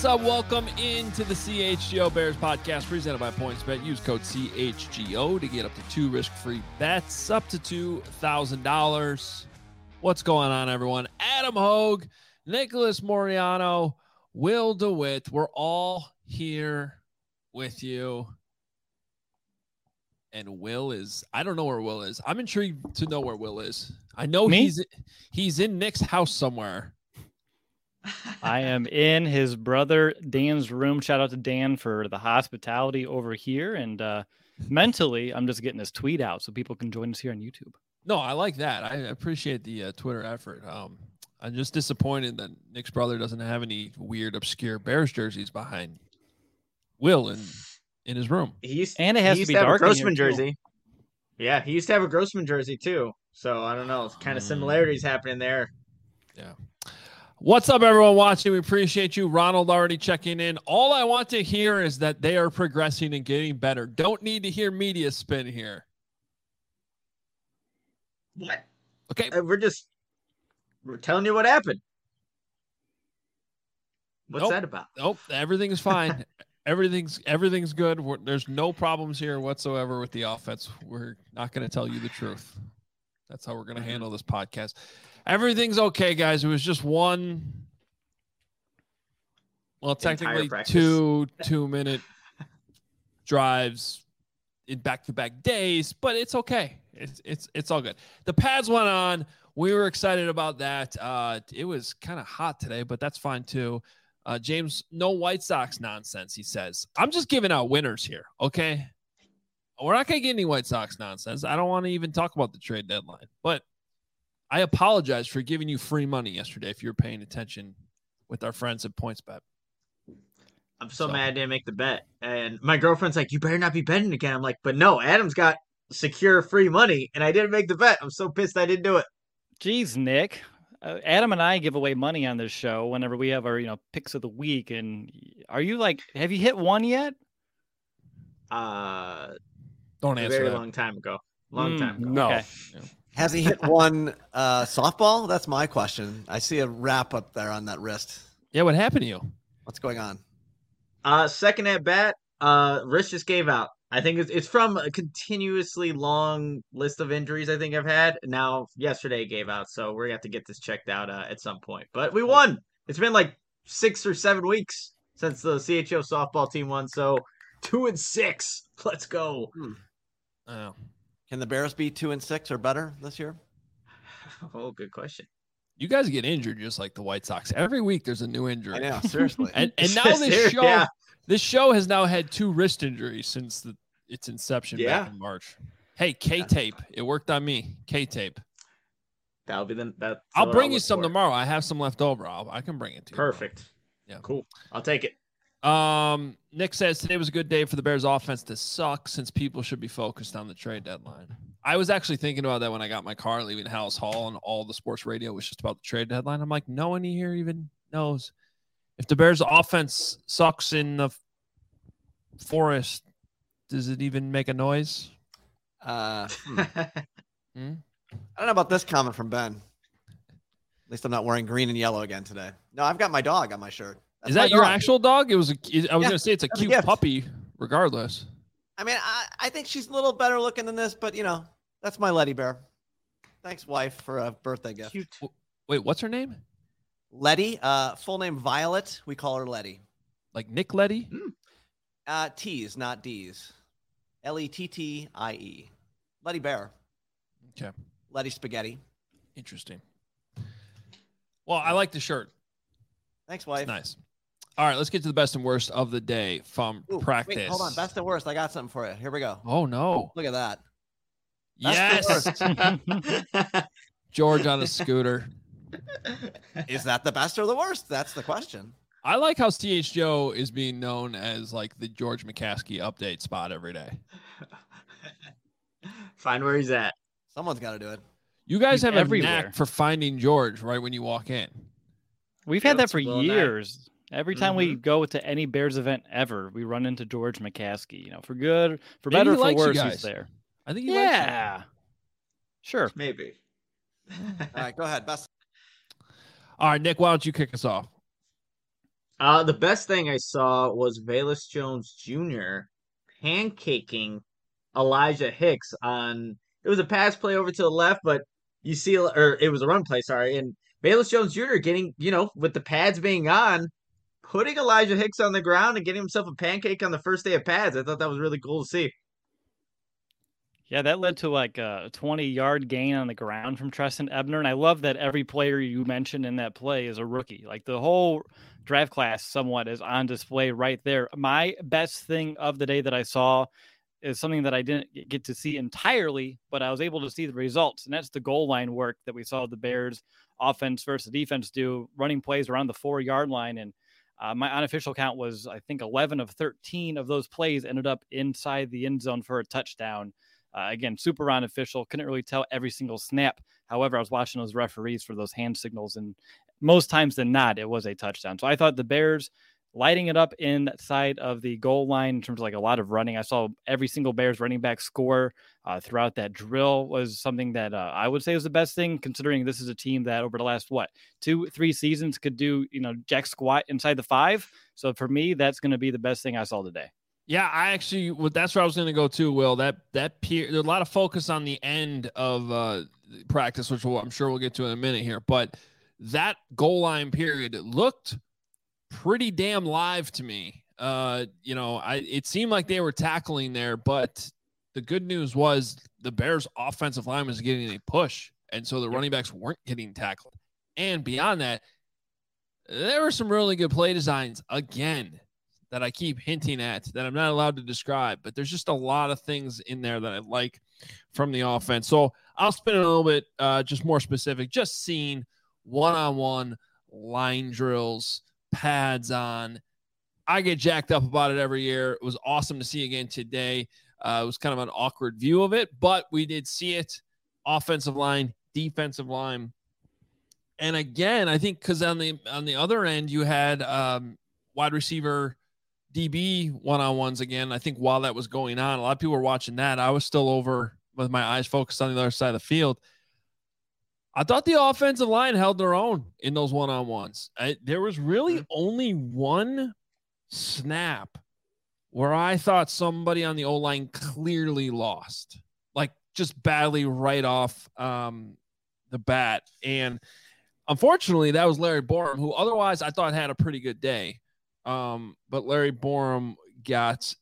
up? Welcome into the CHGO Bears podcast presented by PointsBet. Use code CHGO to get up to 2 risk-free bets up to $2,000. What's going on, everyone? Adam Hogue, Nicholas Moriano, Will DeWitt. We're all here with you. And Will is, I don't know where Will is. I'm intrigued to know where Will is. I know he's in Nick's house somewhere. I am in his brother Dan's room. Shout out to Dan for the hospitality over here. And mentally, I'm just getting this tweet out so people can join us here on YouTube. No, I like that. I appreciate the Twitter effort. I'm just disappointed that Nick's brother doesn't have any weird, obscure Bears jerseys behind Will in his room. It has to be dark. A Grossman jersey. Yeah, he used to have a Grossman jersey too. So I don't know. It's kind of similarities happening there. Yeah. What's up, everyone watching? We appreciate you. Ronald already checking in. All I want to hear is that they are progressing and getting better. Don't need to hear media spin here. What? Okay. We're telling you what happened. What's that about? Nope. Everything's fine. Everything's good. There's no problems here whatsoever with the offense. We're not going to tell you the truth. That's how we're going to handle this podcast. Everything's okay, guys. It was just one, well, technically 2-minute drives in back-to-back days, but it's okay. It's all good. The pads went on. We were excited about that. It was kind of hot today, but that's fine too. James, no White Sox nonsense, he says. I'm just giving out winners here, okay? We're not going to get any White Sox nonsense. I don't want to even talk about the trade deadline, but I apologize for giving you free money yesterday if you were paying attention with our friends at PointsBet. I'm so mad I didn't make the bet. And my girlfriend's like, you better not be betting again. I'm like, but no, Adam's got secure free money, and I didn't make the bet. I'm so pissed I didn't do it. Jeez, Nick. Adam and I give away money on this show whenever we have our picks of the week. And are you have you hit one yet? Don't answer a very that. long time ago. Long time ago. No. Okay. Yeah. Has he hit one softball? That's my question. I see a wrap up there on that wrist. Yeah, what happened to you? What's going on? Second at bat, wrist just gave out. I think it's from a continuously long list of injuries I think I've had. Now, yesterday it gave out, so we're going to have to get this checked out at some point. But we won. It's been like 6 or 7 weeks since the CHO softball team won, so 2-6. Let's go. Oh. Can the Bears be 2-6 or better this year? Oh, good question. You guys get injured just like the White Sox. Every week there's a new injury. I know, seriously. and now this show has now had 2 wrist injuries since its inception back in March. Hey, K-tape. It worked on me. K-tape. That'll be that. I'll bring you some tomorrow. I have some left over. I can bring it to you. Perfect. Yeah. Cool. I'll take it. Nick says today was a good day for the Bears offense to suck since people should be focused on the trade deadline. I was actually thinking about that when I got my car leaving House Hall and all the sports radio was just about the trade deadline. I'm like, no one here even knows. If the Bears offense sucks in the forest, does it even make a noise? I don't know about this comment from Ben. At least I'm not wearing green and yellow again today. No, I've got my dog on my shirt. Is that your actual dog? I was going to say it's a cute puppy regardless. I mean, I think she's a little better looking than this, but that's my Letty Bear. Thanks, wife, for a birthday gift. Cute. Wait, what's her name? Letty, full name Violet. We call her Letty. Like Nick Letty? T's, not D's. Lettie. Letty Bear. Okay. Letty Spaghetti. Interesting. Well, I like the shirt. Thanks, wife. It's nice. All right, let's get to the best and worst of the day from practice. Wait, hold on. Best and worst. I got something for you. Here we go. Oh, no. Look at that. Yes. George on a scooter. Is that the best or the worst? That's the question. I like how CHGO is being known as like the George McCaskey update spot every day. Find where he's at. Someone's got to do it. You guys have everywhere. a knack for finding George right when you walk in. We've had that for years. Every time we go to any Bears event ever, we run into George McCaskey. For good, for better, for worse, he's there. I think he likes you. Sure. Maybe. All right, go ahead. Best. All right, Nick, why don't you kick us off? The best thing I saw was Velus Jones Jr. pancaking Elijah Hicks on. It was a pass play over to the left, but you see, or it was a run play, sorry. And Velus Jones Jr. getting, with the pads being on, putting Elijah Hicks on the ground and getting himself a pancake on the first day of pads. I thought that was really cool to see. Yeah, that led to like a 20-yard gain on the ground from Treston Ebner. And I love that every player you mentioned in that play is a rookie. Like the whole draft class somewhat is on display right there. My best thing of the day that I saw is something that I didn't get to see entirely, but I was able to see the results. And that's the goal line work that we saw the Bears offense versus defense do, running plays around the 4-yard line. And my unofficial count was, I think, 11 of 13 of those plays ended up inside the end zone for a touchdown. Again, super unofficial. Couldn't really tell every single snap. However, I was watching those referees for those hand signals, and most times than not, it was a touchdown. So I thought the Bears lighting it up inside of the goal line in terms of like a lot of running. I saw every single Bears running back score throughout that drill was something that I would say is the best thing, considering this is a team that over the last, 2-3 seasons could do, jack squat inside the 5. So for me, that's going to be the best thing I saw today. Yeah, that's where I was going to go too, Will. There's a lot of focus on the end of practice, which I'm sure we'll get to in a minute here. But that goal line period looked pretty damn live to me. It seemed like they were tackling there, but the good news was the Bears' offensive line was getting a push, and so the running backs weren't getting tackled. And beyond that, there were some really good play designs again that I keep hinting at that I'm not allowed to describe, but there's just a lot of things in there that I like from the offense. So I'll spin it a little bit, just more specific, just seeing one-on-one line drills, pads on. I get jacked up about it every year. It was awesome to see again today. It was kind of an awkward view of it, but we did see it. Offensive line, defensive line. And again, I think because on the other end, you had wide receiver DB one-on-ones again. I think while that was going on, a lot of people were watching that. I was still over with my eyes focused on the other side of the field. I thought the offensive line held their own in those one-on-ones. There was really only one snap where I thought somebody on the O-line clearly lost, like just badly right off the bat. And unfortunately, that was Larry Borom, who otherwise I thought had a pretty good day. But Larry Borom got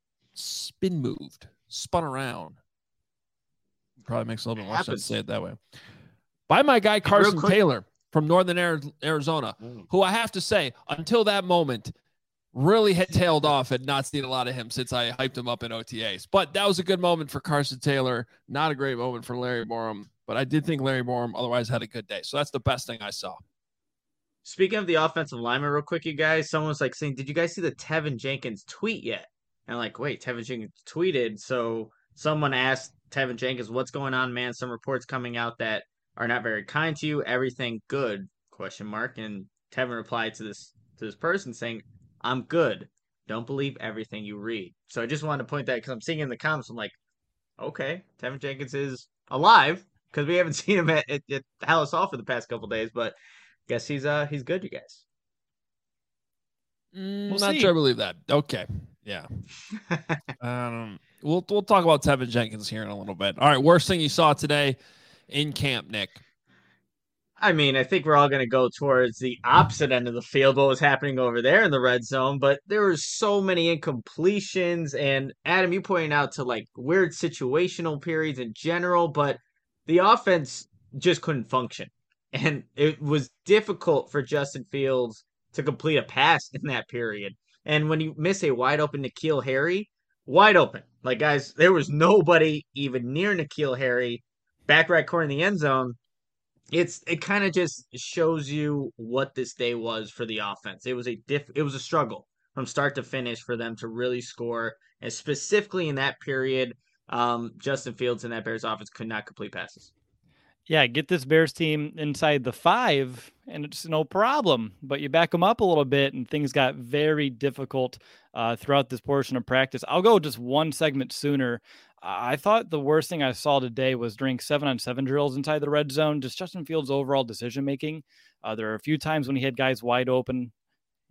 spun around. Probably makes a little bit more sense to say it that way. By my guy Carson Taylor from Northern Arizona, who I have to say, until that moment, really had tailed off and not seen a lot of him since I hyped him up in OTAs. But that was a good moment for Carson Taylor. Not a great moment for Larry Borom, but I did think Larry Borom otherwise had a good day. So that's the best thing I saw. Speaking of the offensive lineman real quick, you guys, someone's like saying, did you guys see the Tevin Jenkins tweet yet? And I'm like, wait, Tevin Jenkins tweeted. So someone asked Tevin Jenkins, what's going on, man? Some reports coming out that are not very kind to you. Everything good? ? And Tevin replied to this person saying, I'm good. Don't believe everything you read. So I just wanted to point that because I'm seeing in the comments, I'm like, okay, Tevin Jenkins is alive because we haven't seen him at Halas Hall for the past couple days, but guess he's good, you guys. We'll not sure I believe that. Okay. Yeah. We'll talk about Tevin Jenkins here in a little bit. All right. Worst thing you saw today in camp, Nick. I mean, I think we're all going to go towards the opposite end of the field, what was happening over there in the red zone, but there were so many incompletions. And Adam, you pointed out to like weird situational periods in general, but the offense just couldn't function. And it was difficult for Justin Fields to complete a pass in that period. And when you miss a wide open N'Keal Harry, wide open. Like, guys, there was nobody even near N'Keal Harry, back right corner in the end zone. It kind of just shows you what this day was for the offense. It was a struggle from start to finish for them to really score. And specifically in that period, Justin Fields and that Bears offense could not complete passes. Yeah, get this Bears team inside the 5, and it's no problem. But you back them up a little bit, and things got very difficult throughout this portion of practice. I'll go just one segment sooner. I thought the worst thing I saw today was during 7-on-7 drills inside the red zone, just Justin Fields' overall decision-making. There are a few times when he had guys wide open,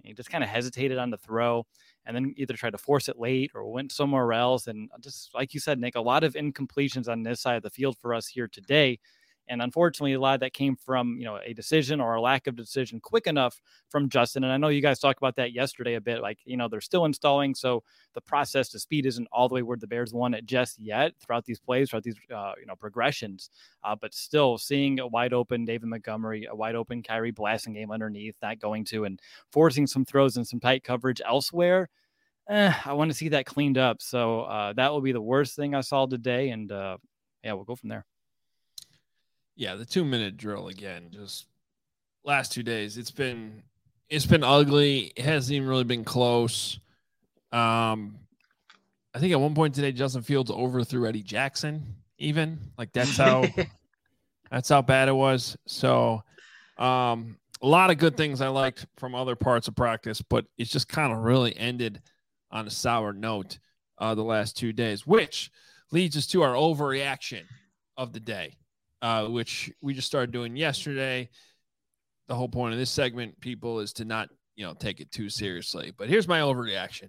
He just kind of hesitated on the throw and then either tried to force it late or went somewhere else. And just like you said, Nick, a lot of incompletions on this side of the field for us here today. And unfortunately, a lot of that came from, a decision or a lack of decision quick enough from Justin. And I know you guys talked about that yesterday a bit, like, they're still installing. So the process to speed isn't all the way where the Bears won it just yet throughout these plays, throughout these, progressions. But still seeing a wide open David Montgomery, a wide open Kyrie Blasingame underneath, not going to, and forcing some throws and some tight coverage elsewhere. I want to see that cleaned up. So that will be the worst thing I saw today. And we'll go from there. Yeah, the 2-minute drill again, just last 2 days. It's been ugly. It hasn't even really been close. I think at one point today, Justin Fields overthrew Eddie Jackson, even. Like that's how bad it was. So a lot of good things I liked from other parts of practice, but it's just kind of really ended on a sour note the last 2 days, which leads us to our overreaction of the day. Which we just started doing yesterday. The whole point of this segment, people, is to not, take it too seriously. But here's my overreaction.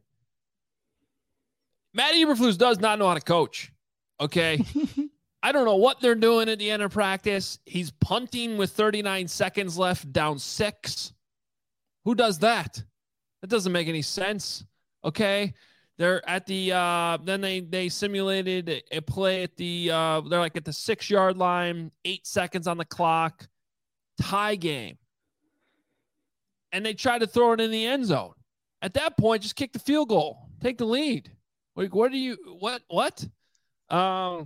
Matt Eberflus does not know how to coach. Okay. I don't know what they're doing at the end of practice. He's punting with 39 seconds left, down 6. Who does that? That doesn't make any sense. Okay. They're at the then they simulated a play at the they're like at the 6-yard line, 8 seconds on the clock, tie game. And they tried to throw it in the end zone. At that point, just kick the field goal. Take the lead. Like, what? And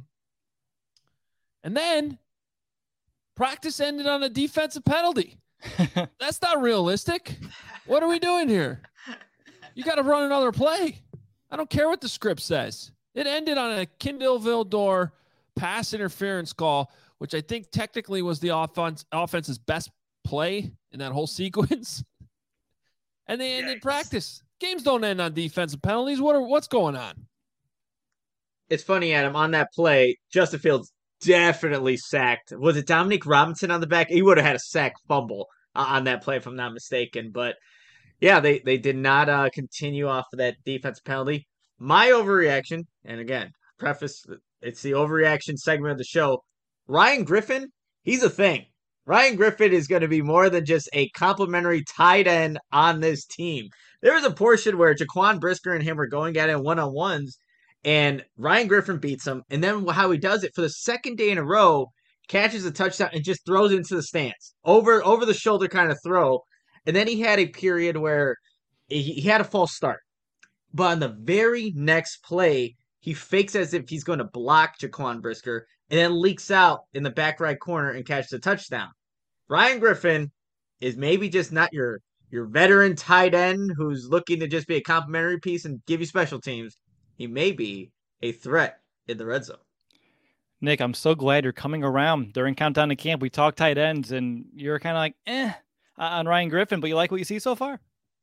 then practice ended on a defensive penalty. That's not realistic. What are we doing here? You got to run another play. I don't care what the script says. It ended on a Kindle Vildor pass interference call, which I think technically was the offense's best play in that whole sequence. And they ended practice. Games don't end on defensive penalties. What's going on? It's funny, Adam. On that play, Justin Fields definitely sacked. Was it Dominique Robinson on the back? He would have had a sack fumble on that play, if I'm not mistaken. But yeah, they did not continue off of that defensive penalty. My overreaction, and again, preface, it's the overreaction segment of the show. Ryan Griffin, he's a thing. Ryan Griffin is going to be more than just a complimentary tight end on this team. There was a portion where Jaquan Brisker and him were going at it one-on-ones, and Ryan Griffin beats him. And then how he does it for the second day in a row, catches a touchdown and just throws it into the stands. Over the shoulder kind of throw. And then he had a period where he had a false start. But on the very next play, he fakes as if he's going to block Jaquan Brisker and then leaks out in the back right corner and catches a touchdown. Ryan Griffin is maybe just not your veteran tight end who's looking to just be a complimentary piece and give you special teams. He may be a threat in the red zone. Nick, I'm so glad you're coming around. During Countdown to Camp, we talked tight ends, and you're kind of like, on Ryan Griffin, but you like what you see so far?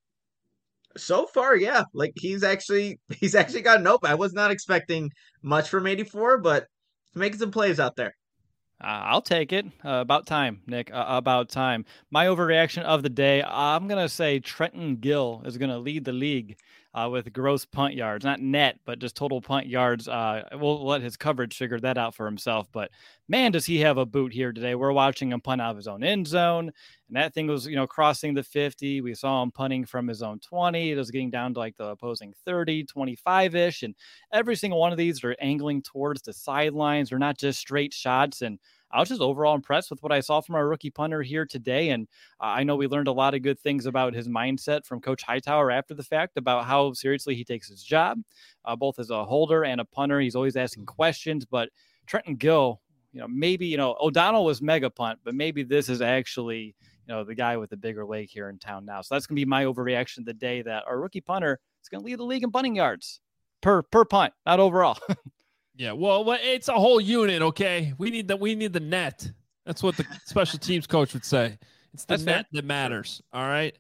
So far, yeah. Like he's actually gotten open. I was not expecting much from 84, but he's making some plays out there. I'll take it. About time, Nick. About time. My overreaction of the day, I'm going to say Trenton Gill is going to lead the league with gross punt yards. Not net, but just total punt yards. We'll let his coverage figure that out for himself. But, man, does he have a boot here today. We're watching him punt out of his own end zone. And that thing was, crossing the 50. We saw him punting from his own 20. It was getting down to like the opposing 30, 25-ish. And every single one of these are angling towards the sidelines. They're not just straight shots. And I was just overall impressed with what I saw from our rookie punter here today. And I know we learned a lot of good things about his mindset from Coach Hightower after the fact about how seriously he takes his job, both as a holder and a punter. He's always asking questions. But Trenton Gill, maybe, O'Donnell was mega punt, but maybe this is actually, the guy with the bigger leg here in town now. So that's going to be my overreaction of the day, that our rookie punter is going to lead the league in punting yards per punt, not overall. Yeah, well, it's a whole unit, okay? We need the net. That's what the special teams coach would say. It's the net that matters, all right?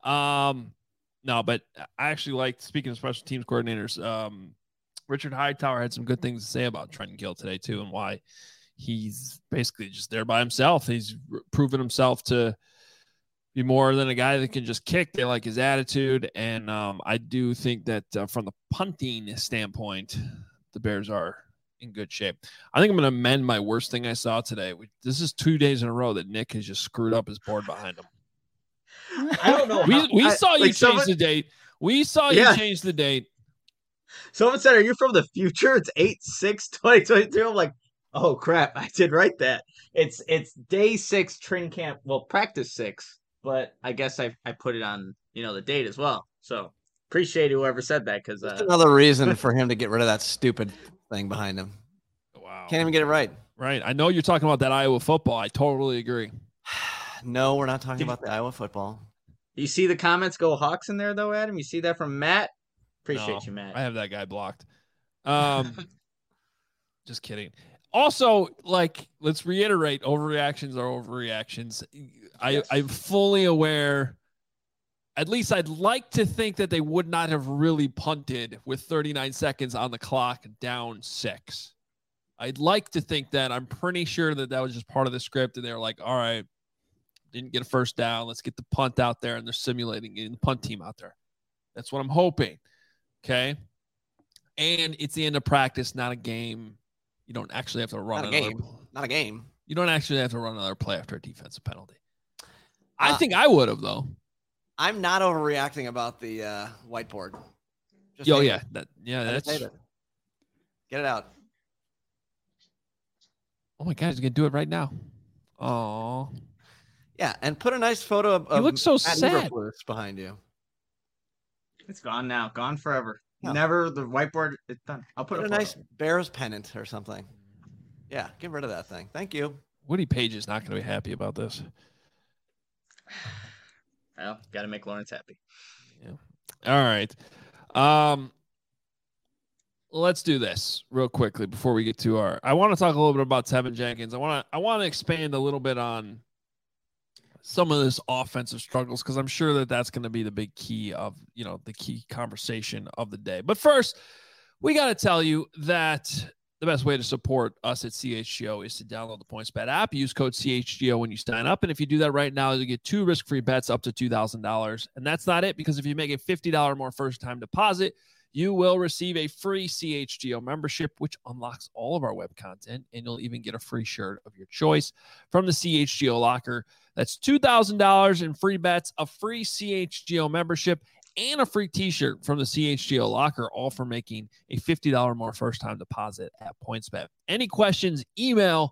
No, but I actually liked, speaking of special teams coordinators, Richard Hightower had some good things to say about Trenton Gill today, too, and why he's basically just there by himself. He's proven himself to be more than a guy that can just kick. They like his attitude. And I do think that from the punting standpoint, the Bears are in good shape. I think I'm going to amend my worst thing I saw today. This is 2 days in a row that Nick has just screwed up his board behind him. I don't know. We saw you change the date. We saw you change the date. Someone said, "Are you from the future?" It's 8/6/2022. I'm like, oh crap, I did write that. It's day 6 training camp. Well, practice 6, but I guess I put it on the date as well. So appreciate whoever said that because another reason for him to get rid of that stupid thing behind him. Wow, can't even get it right. Right, I know you're talking about that Iowa football. I totally agree. No, we're not talking about the Iowa football. You see the comments go Hawks in there though, Adam. You see that from Matt. Appreciate you, Matt. I have that guy blocked. Just kidding. Also, let's reiterate, overreactions are overreactions. I'm fully aware. At least I'd like to think that they would not have really punted with 39 seconds on the clock down 6. I'd like to think that. I'm pretty sure that was just part of the script, and they were like, all right, didn't get a first down. Let's get the punt out there, and they're simulating getting the punt team out there. That's what I'm hoping. Okay. And it's the end of practice, not a game. You don't actually have to run not a game. You don't actually have to run another play after a defensive penalty. I think I would have, though. I'm not overreacting about the whiteboard. That's Get it out. Oh my God, he's gonna do it right now. Oh. Yeah, and put a nice photo of you look so sad behind you. It's gone now. Gone forever. No. Never the whiteboard. It's done. I'll put a nice Bears pennant or something. Yeah, get rid of that thing. Thank you. Woody Page is not going to be happy about this. Well, got to make Lawrence happy. Yeah. All right. Let's do this real quickly before we get to I want to talk a little bit about Tevin Jenkins. I want to expand a little bit on some of this offensive struggles, because I'm sure that that's going to be the big key of, the key conversation of the day. But first, we got to tell you that the best way to support us at CHGO is to download the PointsBet app. Use code CHGO when you sign up. And if you do that right now, you get 2 risk-free bets up to $2,000. And that's not it, because if you make a $50 more first-time deposit, you will receive a free CHGO membership, which unlocks all of our web content, and you'll even get a free shirt of your choice from the CHGO locker. That's $2,000 in free bets, a free CHGO membership, and a free t-shirt from the CHGO locker, all for making a $50 more first-time deposit at PointsBet. Any questions, email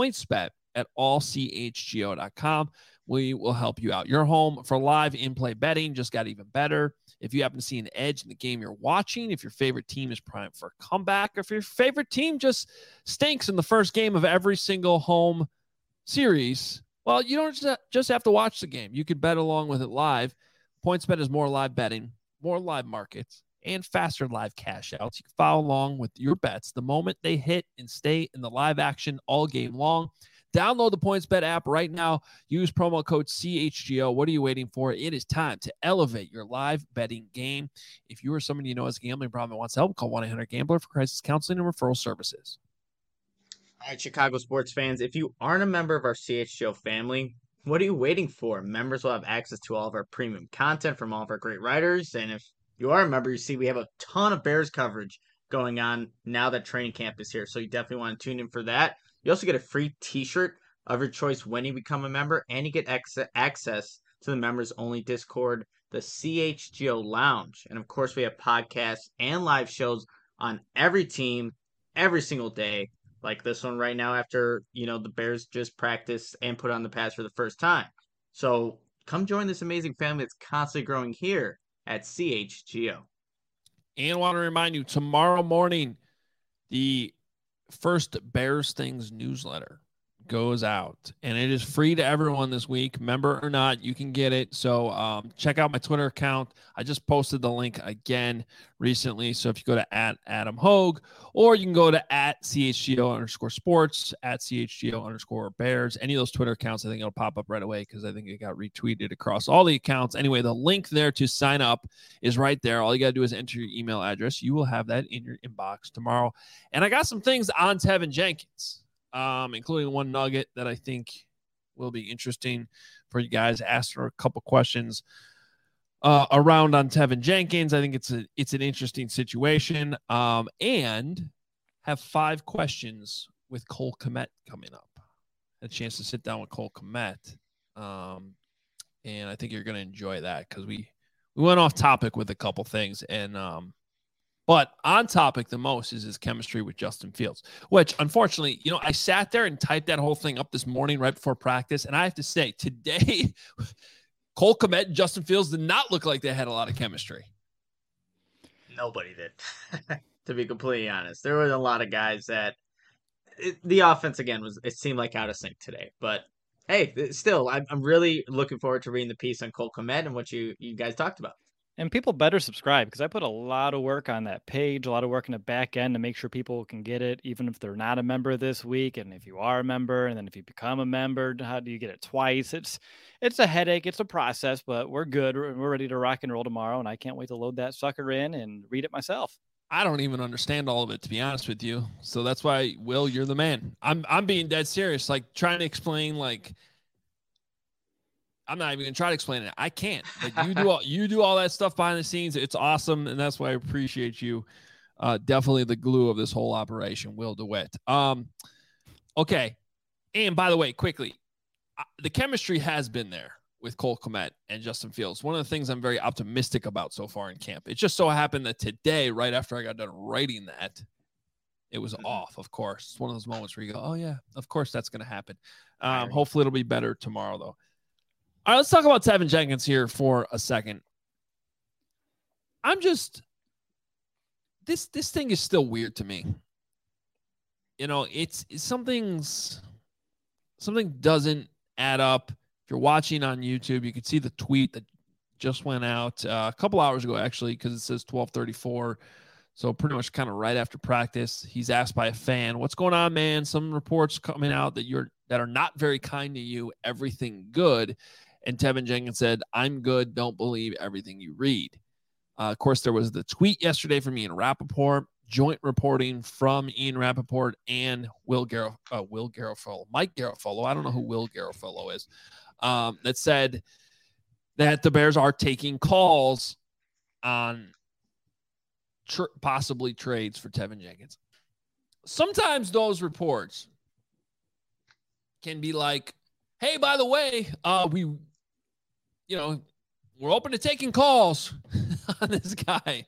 pointsbet@allchgo.com. We will help you out. Your home for live in-play betting just got even better. If you happen to see an edge in the game you're watching, if your favorite team is primed for a comeback, or if your favorite team just stinks in the first game of every single home series, well, you don't just have to watch the game. You can bet along with it live. PointsBet is more live betting, more live markets, and faster live cash outs. You can follow along with your bets the moment they hit and stay in the live action all game long. Download the PointsBet app right now. Use promo code CHGO. What are you waiting for? It is time to elevate your live betting game. If you or someone you know has a gambling problem and wants help, call 1-800-GAMBLER for crisis counseling and referral services. All right, Chicago sports fans, if you aren't a member of our CHGO family, what are you waiting for? Members will have access to all of our premium content from all of our great writers. And if you are a member, you see we have a ton of Bears coverage going on now that training camp is here. So you definitely want to tune in for that. You also get a free t-shirt of your choice when you become a member, and you get access to the members-only Discord, the CHGO Lounge. And, of course, we have podcasts and live shows on every team every single day, like this one right now after, the Bears just practiced and put on the pads for the first time. So come join this amazing family that's constantly growing here at CHGO. And I want to remind you, tomorrow morning, the first Bears Things newsletter goes out, and it is free to everyone this week, member or not. You can get it. So check out my Twitter account. I just posted the link again recently. So if you go to @AdamHogue, or you can go to @CHGO_sports, @CHGO_Bears, any of those Twitter accounts, I think it'll pop up right away, because I think it got retweeted across all the accounts. Anyway, the link there to sign up is right there. All you got to do is enter your email address. You will have that in your inbox tomorrow. And I got some things on Tevin Jenkins, including one nugget that I think will be interesting for you guys. Asked her a couple questions around on Tevin Jenkins. I think it's an interesting situation. And have 5 questions with Cole Kmet coming up. Had a chance to sit down with Cole Kmet. And I think you're going to enjoy that because we went off topic with a couple things. And but on topic the most is his chemistry with Justin Fields, which unfortunately, I sat there and typed that whole thing up this morning right before practice. And I have to say today, Cole Kmet and Justin Fields did not look like they had a lot of chemistry. Nobody did, to be completely honest. There were a lot of guys that the offense again it seemed like out of sync today. But hey, still, I'm really looking forward to reading the piece on Cole Kmet and what you guys talked about. And people better subscribe because I put a lot of work on that page, a lot of work in the back end to make sure people can get it, even if they're not a member this week. And if you are a member, and then if you become a member, how do you get it twice? It's a headache. It's a process, but we're good. We're ready to rock and roll tomorrow. And I can't wait to load that sucker in and read it myself. I don't even understand all of it, to be honest with you. So that's why, Will, you're the man. I'm being dead serious, like trying to explain, like, I'm not even gonna try to explain it. I can't. Like you do all that stuff behind the scenes. It's awesome, and that's why I appreciate you. Definitely the glue of this whole operation, Will DeWitt. Okay. And by the way, quickly, the chemistry has been there with Cole Kmet and Justin Fields. One of the things I'm very optimistic about so far in camp. It just so happened that today, right after I got done writing that, it was off, of course. It's one of those moments where you go, oh, yeah, of course that's going to happen. Hopefully it'll be better tomorrow, though. All right, let's talk about Tevin Jenkins here for a second. This thing is still weird to me. It's something doesn't add up. If you're watching on YouTube, you can see the tweet that just went out a couple hours ago, actually, because it says 12:34. So pretty much kind of right after practice. He's asked by a fan, "What's going on, man? Some reports coming out that are not very kind to you. Everything good?" And Tevin Jenkins said, "I'm good. Don't believe everything you read." Of course, there was the tweet yesterday from Ian Rappaport, joint reporting from Ian Rappaport and Mike Garafolo. I don't know who Will Garafolo is. That said that the Bears are taking calls on possibly trades for Tevin Jenkins. Sometimes those reports can be like, "Hey, by the way, we're open to taking calls on this guy."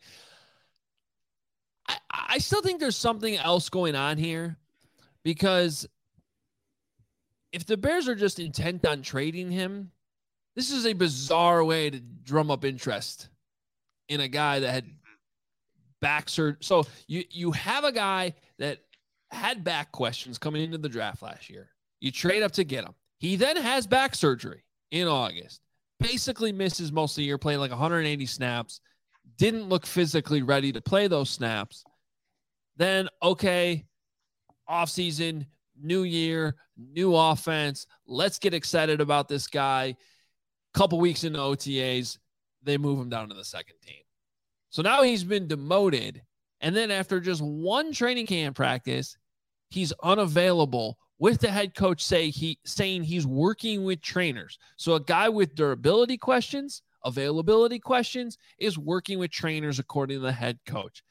I still think there's something else going on here, because if the Bears are just intent on trading him, this is a bizarre way to drum up interest in a guy that had back surgery. So you have a guy that had back questions coming into the draft last year. You trade up to get him. He then has back surgery in August. Basically misses most of the year, playing like 180 snaps. Didn't look physically ready to play those snaps. Then, okay, offseason, new year, new offense. Let's get excited about this guy. Couple weeks into OTAs, they move him down to the second team. So now he's been demoted. And then after just one training camp practice, he's unavailable, with the head coach saying he's working with trainers. So a guy with durability questions, availability questions, is working with trainers according to the head coach.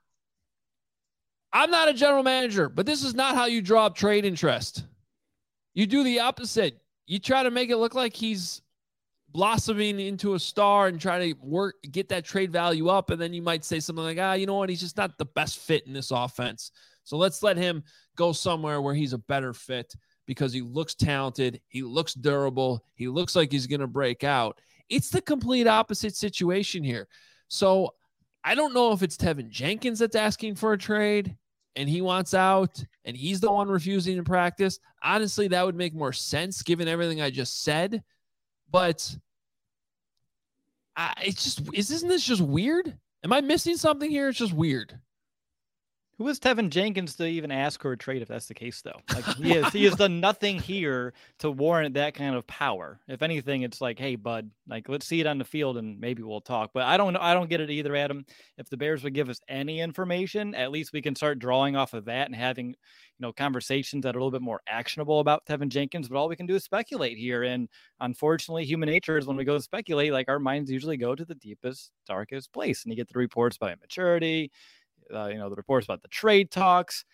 I'm not a general manager, but this is not how you draw up trade interest. You do the opposite. You try to make it look like he's blossoming into a star and try to get that trade value up. And then you might say something like, you know what? He's just not the best fit in this offense. So let's let him go somewhere where he's a better fit because he looks talented. He looks durable. He looks like he's going to break out. It's the complete opposite situation here. So I don't know if it's Tevin Jenkins that's asking for a trade and he wants out and he's the one refusing to practice. Honestly, that would make more sense given everything I just said. But isn't this just weird? Am I missing something here? It's just weird. Who is Tevin Jenkins to even ask for a trade if that's the case, though? Like he has done nothing here to warrant that kind of power. If anything, it's like, hey, bud, like let's see it on the field and maybe we'll talk. But I don't know. I don't get it either, Adam. If the Bears would give us any information, at least we can start drawing off of that and having, conversations that are a little bit more actionable about Tevin Jenkins. But all we can do is speculate here. And unfortunately, human nature is when we go to speculate, like our minds usually go to the deepest, darkest place. And you get the reports about immaturity, the reports about the trade talks.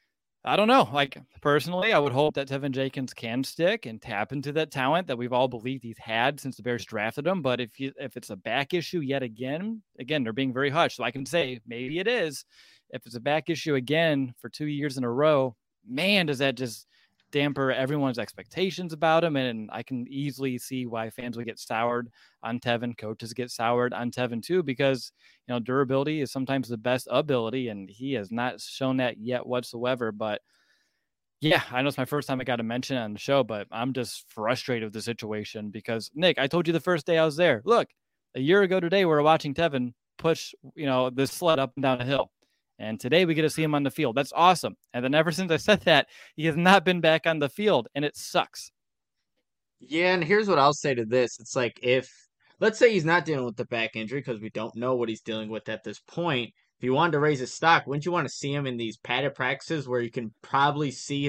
I don't know. Like personally, I would hope that Tevin Jenkins can stick and tap into that talent that we've all believed he's had since the Bears drafted him. But if it's a back issue yet again, they're being very hushed. So I can say maybe it is. If it's a back issue again for 2 years in a row, man, does that just damper everyone's expectations about him. And I can easily see why fans would get soured on Tevin. Coaches get soured on Tevin too, because, durability is sometimes the best ability, and he has not shown that yet whatsoever. But yeah, I know it's my first time I got to mention it on the show, but I'm just frustrated with the situation because, Nick, I told you the first day I was there, look, a year ago today, we were watching Tevin push, this sled up and down a hill. And today we get to see him on the field. That's awesome. And then ever since I said that, he has not been back on the field, and it sucks. Yeah, and here's what I'll say to this. It's like let's say he's not dealing with the back injury because we don't know what he's dealing with at this point. If you wanted to raise his stock, wouldn't you want to see him in these padded practices where you can probably see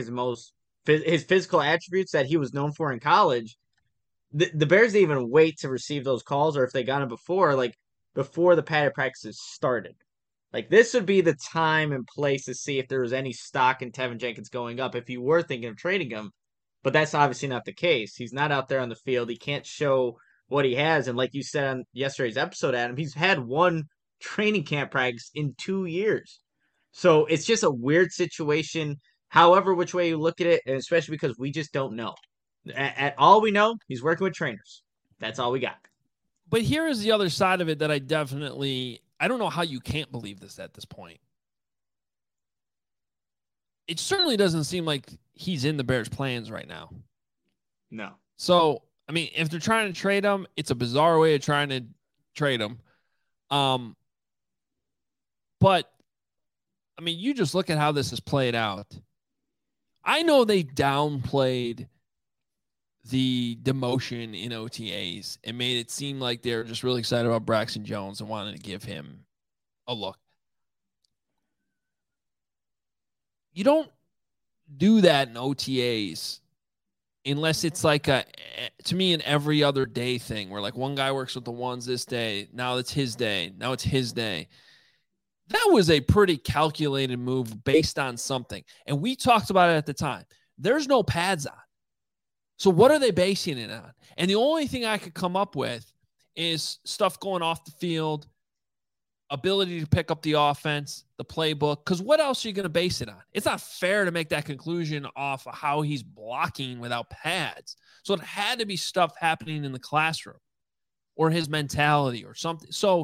his physical attributes that he was known for in college? The Bears didn't even wait to receive those calls, or if they got him before the padded practices started. Like, this would be the time and place to see if there was any stock in Tevin Jenkins going up if you were thinking of trading him. But that's obviously not the case. He's not out there on the field. He can't show what he has. And like you said on yesterday's episode, Adam, he's had one training camp practice in 2 years. So it's just a weird situation, however which way you look at it, and especially because we just don't know. At all we know, he's working with trainers. That's all we got. But here is the other side of it that I don't know how you can't believe this at this point. It certainly doesn't seem like he's in the Bears' plans right now. No. So, I mean, if they're trying to trade him, it's a bizarre way of trying to trade him. But, I mean, you just look at how this has played out. I know they downplayed the demotion in OTAs and made it seem like they're just really excited about Braxton Jones and wanted to give him a look. You don't do that in OTAs unless it's like to me, an every other day thing where like one guy works with the ones this day. Now it's his day. Now it's his day. That was a pretty calculated move based on something. And we talked about it at the time. There's no pads on. So what are they basing it on? And the only thing I could come up with is stuff going off the field, ability to pick up the offense, the playbook. Because what else are you going to base it on? It's not fair to make that conclusion off of how he's blocking without pads. So it had to be stuff happening in the classroom or his mentality or something. So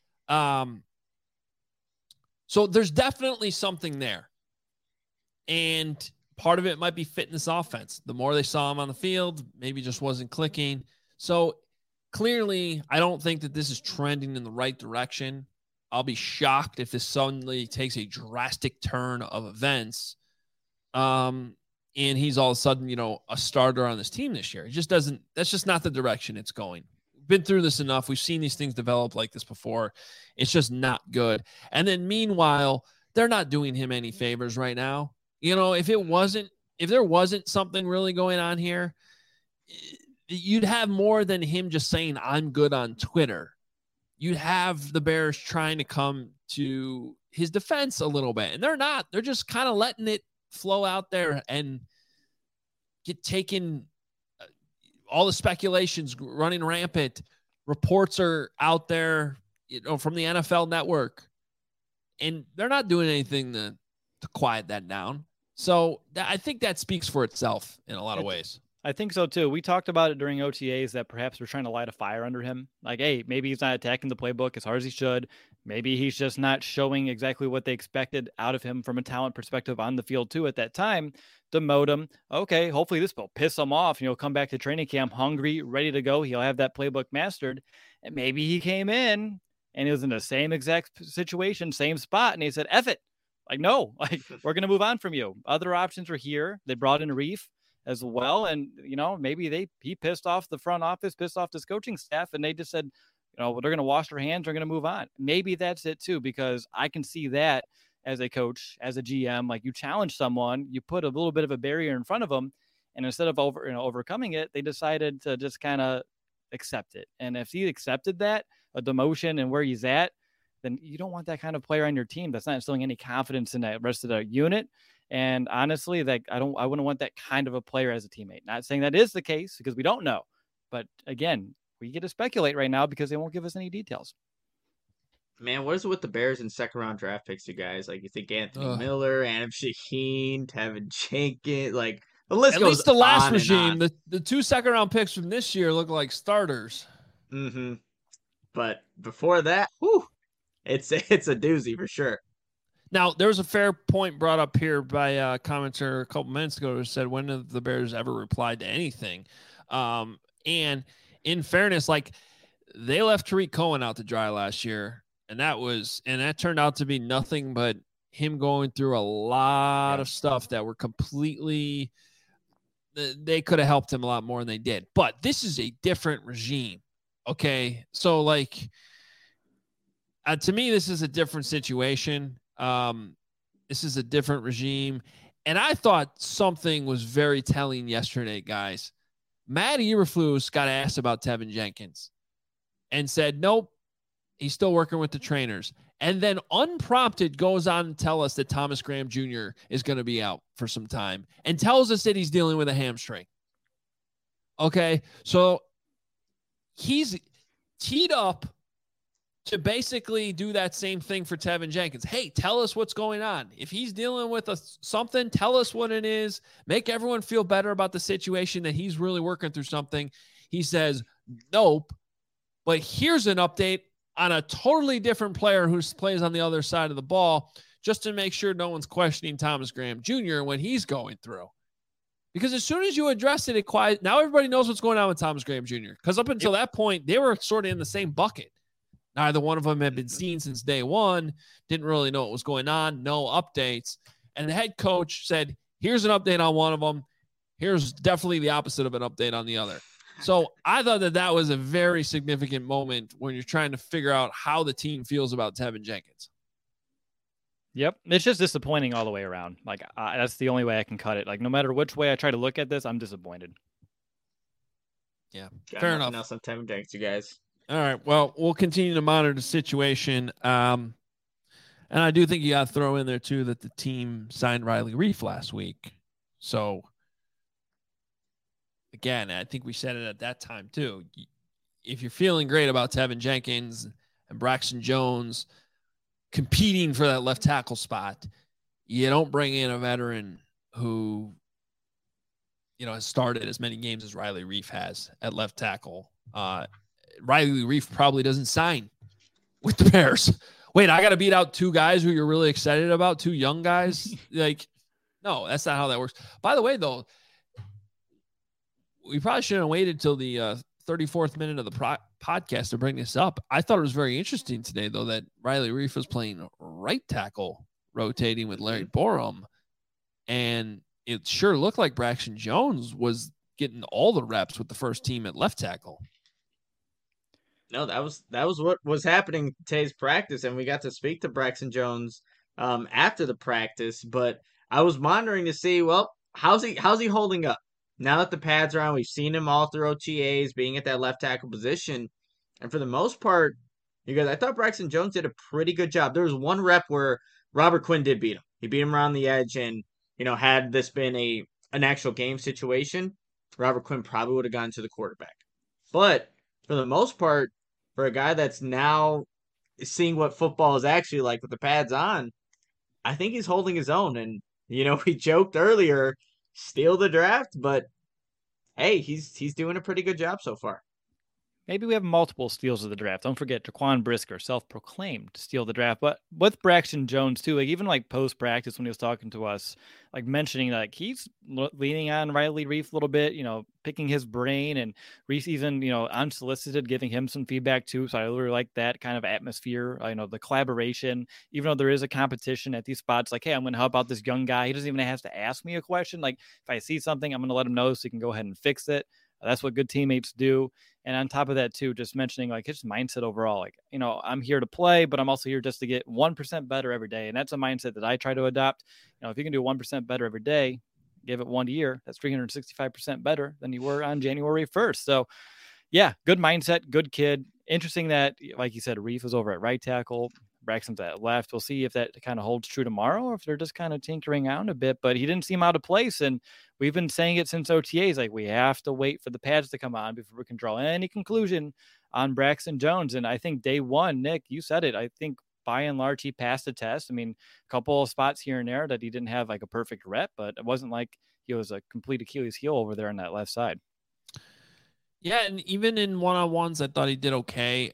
there's definitely something there. And part of it might be fit in this offense. The more they saw him on the field, maybe just wasn't clicking. So clearly, I don't think that this is trending in the right direction. I'll be shocked if this suddenly takes a drastic turn of events. And he's all of a sudden, a starter on this team this year. It just doesn't, that's just not the direction it's going. Been through this enough. We've seen these things develop like this before. It's just not good. And then meanwhile, they're not doing him any favors right now. If there wasn't something really going on here, you'd have more than him just saying, I'm good on Twitter. You'd have the Bears trying to come to his defense a little bit. And they're not. They're just kind of letting it flow out there and get taken. All the speculations running rampant. Reports are out there, from the NFL Network. And they're not doing anything to quiet that down. So I think that speaks for itself in a lot of ways. I think so too. We talked about it during OTAs that perhaps we're trying to light a fire under him. Like, hey, maybe he's not attacking the playbook as hard as he should. Maybe he's just not showing exactly what they expected out of him from a talent perspective on the field too at that time. Demote him. Okay, hopefully this will piss him off. He'll come back to training camp hungry, ready to go. He'll have that playbook mastered. And maybe he came in and he was in the same exact situation, same spot. And he said, F it. Like, no, like we're going to move on from you. Other options are here. They brought in Reef as well. And, maybe he pissed off the front office, pissed off this coaching staff, and they just said, they're going to wash their hands. They're going to move on. Maybe that's it too, because I can see that as a coach, as a GM, like you challenge someone, you put a little bit of a barrier in front of them. And instead of overcoming it, they decided to just kind of accept it. And if he accepted that, a demotion and where he's at, then you don't want that kind of player on your team. That's not instilling any confidence in that rest of the unit. And honestly, I wouldn't want that kind of a player as a teammate. Not saying that is the case because we don't know, but again, we get to speculate right now because they won't give us any details. Man, what is it with the Bears and second round draft picks, you guys? Like, you think Anthony Miller, Adam Shaheen, Tevin Jenkins, like the list At goes least the last on regime, and on. the 2 second round picks from this year look like starters. Mm-hmm. But before that, whew, it's a doozy for sure. Now, there was a fair point brought up here by a commenter a couple minutes ago who said, when have the Bears ever replied to anything? And in fairness, like they left Tariq Cohen out to dry last year, and that turned out to be nothing but him going through a lot of stuff that were completely, they could have helped him a lot more than they did. But this is a different regime. Okay. So like, to me, this is a different situation. This is a different regime. And I thought something was very telling yesterday, guys. Matt Eberflus got asked about Tevin Jenkins and said, nope, he's still working with the trainers. And then unprompted goes on to tell us that Thomas Graham Jr. is going to be out for some time and tells us that he's dealing with a hamstring. Okay. So he's teed up to basically do that same thing for Tevin Jenkins. Hey, tell us what's going on. If he's dealing with something, tell us what it is. Make everyone feel better about the situation that he's really working through something. He says, nope. But here's an update on a totally different player who plays on the other side of the ball, just to make sure no one's questioning Thomas Graham Jr. when he's going through. Because as soon as you address it, now everybody knows what's going on with Thomas Graham Jr. Because up until that point, they were sort of in the same bucket. Neither one of them had been seen since day one, didn't really know what was going on, no updates. And the head coach said, here's an update on one of them. Here's definitely the opposite of an update on the other. So I thought that was a very significant moment when you're trying to figure out how the team feels about Tevin Jenkins. Yep. It's just disappointing all the way around. Like, that's the only way I can cut it. Like, no matter which way I try to look at this, I'm disappointed. Yeah, fair enough. Else on Tevin Jenkins, you guys. All right. Well, we'll continue to monitor the situation. And I do think you got to throw in there, too, that the team signed Riley Reef last week. So, again, I think we said it at that time, too. If you're feeling great about Tevin Jenkins and Braxton Jones competing for that left tackle spot, you don't bring in a veteran who, has started as many games as Riley Reef has at left tackle. Riley Reef probably doesn't sign with the Bears. Wait, I got to beat out 2 guys who you're really excited about, 2 young guys? Like, no, that's not how that works. By the way, though, we probably shouldn't have waited till the 34th minute of the podcast to bring this up. I thought it was very interesting today, though, that Riley Reef was playing right tackle, rotating with Larry Borom. And it sure looked like Braxton Jones was getting all the reps with the first team at left tackle. No, that was what was happening today's practice, and we got to speak to Braxton Jones after the practice. But I was monitoring to see, well, how's he holding up now that the pads are on? We've seen him all through OTAs, being at that left tackle position, and for the most part, you guys, I thought Braxton Jones did a pretty good job. There was one rep where Robert Quinn did beat him. He beat him around the edge, and had this been an actual game situation, Robert Quinn probably would have gone to the quarterback. But for the most part, for a guy that's now seeing what football is actually like with the pads on, I think he's holding his own. And, we joked earlier, steal the draft, but hey, he's doing a pretty good job so far. maybe we have multiple steals of the draft. Don't forget Jaquan Brisker, self-proclaimed steal of the draft. But with Braxton Jones too, like even like post-practice when he was talking to us, like mentioning like he's leaning on Riley Reef a little bit, picking his brain, and Reef even, unsolicited giving him some feedback too. So I really like that kind of atmosphere, the collaboration, even though there is a competition at these spots, like, hey, I'm going to help out this young guy. He doesn't even have to ask me a question. Like if I see something, I'm going to let him know so he can go ahead and fix it. That's what good teammates do. And on top of that, too, just mentioning like his mindset overall, like, I'm here to play, but I'm also here just to get 1% better every day. And that's a mindset that I try to adopt. If you can do 1% better every day, give it 1 year, that's 365% better than you were on January 1st. So, yeah, good mindset, good kid. Interesting that, like you said, Reef is over at right tackle. Braxton's at left. We'll see if that kind of holds true tomorrow or if they're just kind of tinkering around a bit, but he didn't seem out of place. And we've been saying it since OTAs, like we have to wait for the pads to come on before we can draw any conclusion on Braxton Jones. And I think day one, Nick, you said it. I think by and large, he passed the test. I mean, a couple of spots here and there that he didn't have like a perfect rep, but it wasn't like he was a complete Achilles heel over there on that left side. Yeah. And even in one-on-ones, I thought he did okay.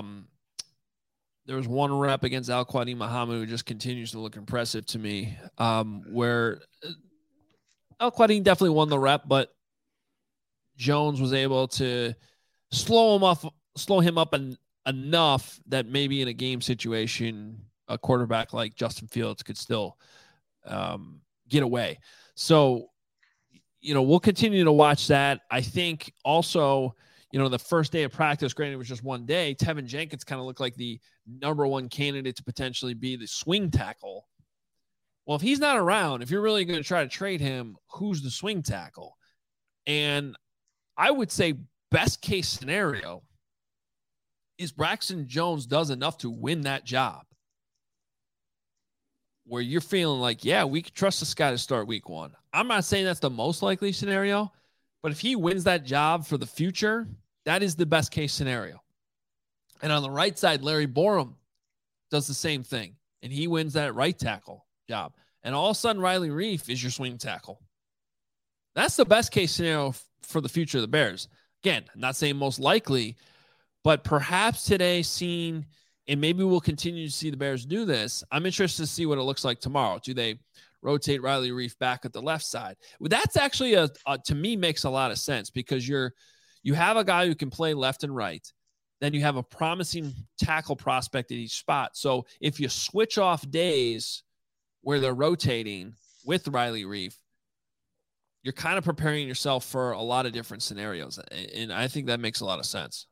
There was one rep against Al-Quadin Muhammad who just continues to look impressive to me, where Al-Quadin definitely won the rep, but Jones was able to slow him up enough that maybe in a game situation, a quarterback like Justin Fields could still get away. So, we'll continue to watch that. I think also, the first day of practice, granted it was just 1 day, Tevin Jenkins kind of looked like the number one candidate to potentially be the swing tackle. Well, if he's not around, if you're really going to try to trade him, who's the swing tackle? And I would say best case scenario is Braxton Jones does enough to win that job, where you're feeling like, yeah, we can trust this guy to start week one. I'm not saying that's the most likely scenario, but if he wins that job for the future, that is the best case scenario. And on the right side, Larry Borum does the same thing, and he wins that right tackle job. And all of a sudden, Riley Reef is your swing tackle. That's the best case scenario for the future of the Bears. Again, I'm not saying most likely, but perhaps today seeing, and maybe we'll continue to see the Bears do this. I'm interested to see what it looks like tomorrow. Do they rotate Riley Reef back at the left side? Well, that's actually to me makes a lot of sense, because you have a guy who can play left and right. Then you have a promising tackle prospect at each spot. So if you switch off days where they're rotating with Riley Reef, you're kind of preparing yourself for a lot of different scenarios. And I think that makes a lot of sense.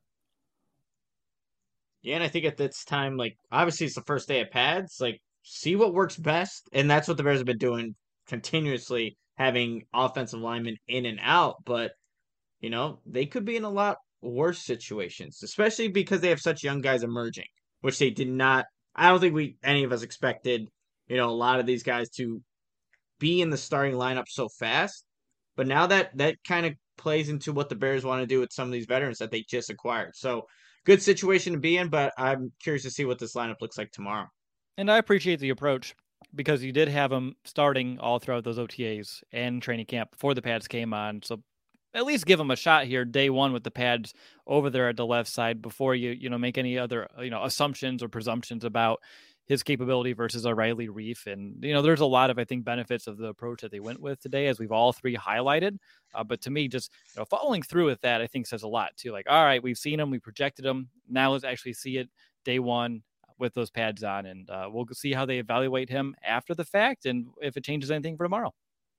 Yeah, and I think at this time, like, obviously it's the first day of pads, like, see what works best. And that's what the Bears have been doing continuously, having offensive linemen in and out. But, they could be in a lot worse situations, especially because they have such young guys emerging, which they did not. I don't think any of us expected, a lot of these guys to be in the starting lineup so fast. But now that kind of plays into what the Bears want to do with some of these veterans that they just acquired. So good situation to be in, but I'm curious to see what this lineup looks like tomorrow. And I appreciate the approach, because you did have them starting all throughout those OTAs and training camp before the pads came on. So at least give them a shot here day one with the pads over there at the left side before you make any other, assumptions or presumptions about his capability versus a Riley Reef. And, there's a lot of, I think, benefits of the approach that they went with today, as we've all three highlighted. But to me, just following through with that, I think says a lot too. Like, all right, we've seen him, we projected him. Now let's actually see it day one with those pads on, and we'll see how they evaluate him after the fact and if it changes anything for tomorrow.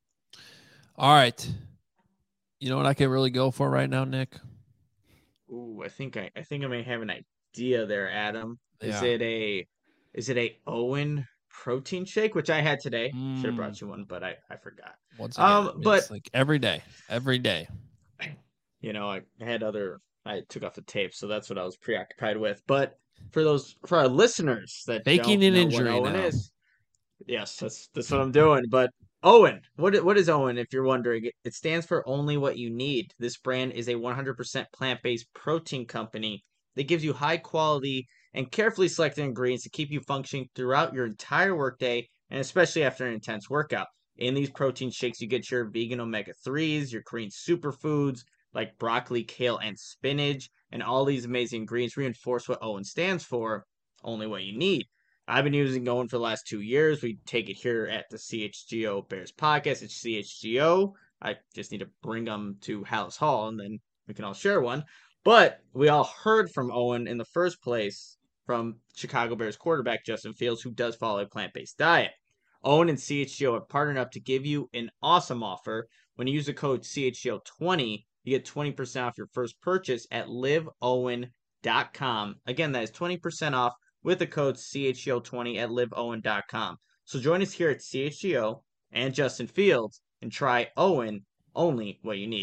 All right. You know what I can really go for right now, Nick? Ooh, I think I may have an idea there, Adam. Yeah. Is it a Owen protein shake, which I had today? Should have brought you one, but I forgot. Once again, but it's like every day. I took off the tape, so that's what I was preoccupied with. But for our listeners that faking don't an know injury what Owen now. is, yes, that's what I'm doing. But Owen, what is Owen? If you're wondering, it stands for Only What You Need. This brand is a 100% plant-based protein company that gives you high quality and carefully selected ingredients to keep you functioning throughout your entire workday, and especially after an intense workout. In these protein shakes, you get your vegan omega-3s, your Korean superfoods like broccoli, kale, and spinach. and all these amazing ingredients reinforce what Owen stands for, only what you need. I've been using Owen for the last 2 years. We take it here at the CHGO Bears podcast. It's CHGO. I just need to bring them to Hallis Hall, and then we can all share one. But we all heard from Owen in the first place from Chicago Bears quarterback Justin Fields, who does follow a plant-based diet. Owen and CHGO have partnered up to give you an awesome offer. When you use the code CHGO20, you get 20% off your first purchase at liveowen.com. Again, that is 20% off with the code CHGO20 at liveowen.com. So join us here at CHGO and Justin Fields and try Owen, only what you need.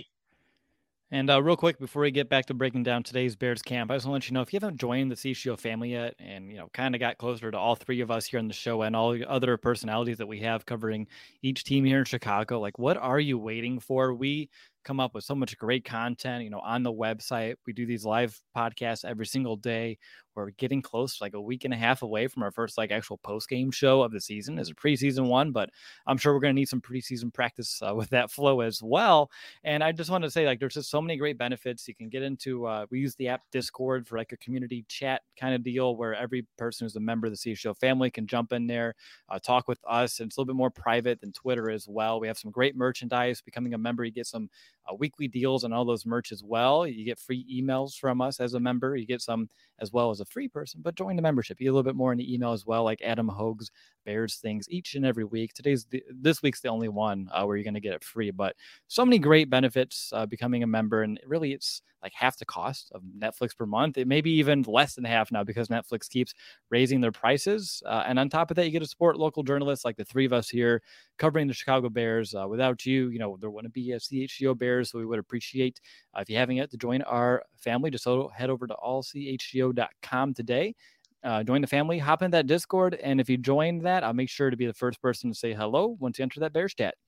And real quick, before we get back to breaking down today's Bears camp, I just want to let you know, if you haven't joined the CHGO family yet and, kind of got closer to all three of us here on the show and all the other personalities that we have covering each team here in Chicago, like, what are you waiting for? We come up with so much great content, on the website. We do these live podcasts every single day. We're getting close, like a week and a half away from our first actual post-game show of the season as a preseason one, but I'm sure we're going to need some preseason practice with that flow as well. And I just want to say, there's just so many great benefits. You can get into, we use the app Discord for a community chat kind of deal where every person who's a member of the CHGO family can jump in there, talk with us. And it's a little bit more private than Twitter as well. We have some great merchandise. Becoming a member, you get some weekly deals on all those merch as well. You get free emails from us as a member. You get some as well as a free person, but join the membership. You get a little bit more in the email as well, like Adam Hogue's Bears things each and every week. This week's the only one where you're going to get it free, but so many great benefits becoming a member. And really it's like half the cost of Netflix per month. It may be even less than half now because Netflix keeps raising their prices. And on top of that, you get to support local journalists like the three of us here covering the Chicago Bears. Without you, there wouldn't be a CHGO Bears. So we would appreciate if you haven't yet to join our family, just head over to allchgo.com today. Join the family, hop in that Discord. And if you join that, I'll make sure to be the first person to say hello once you enter that Bears chat.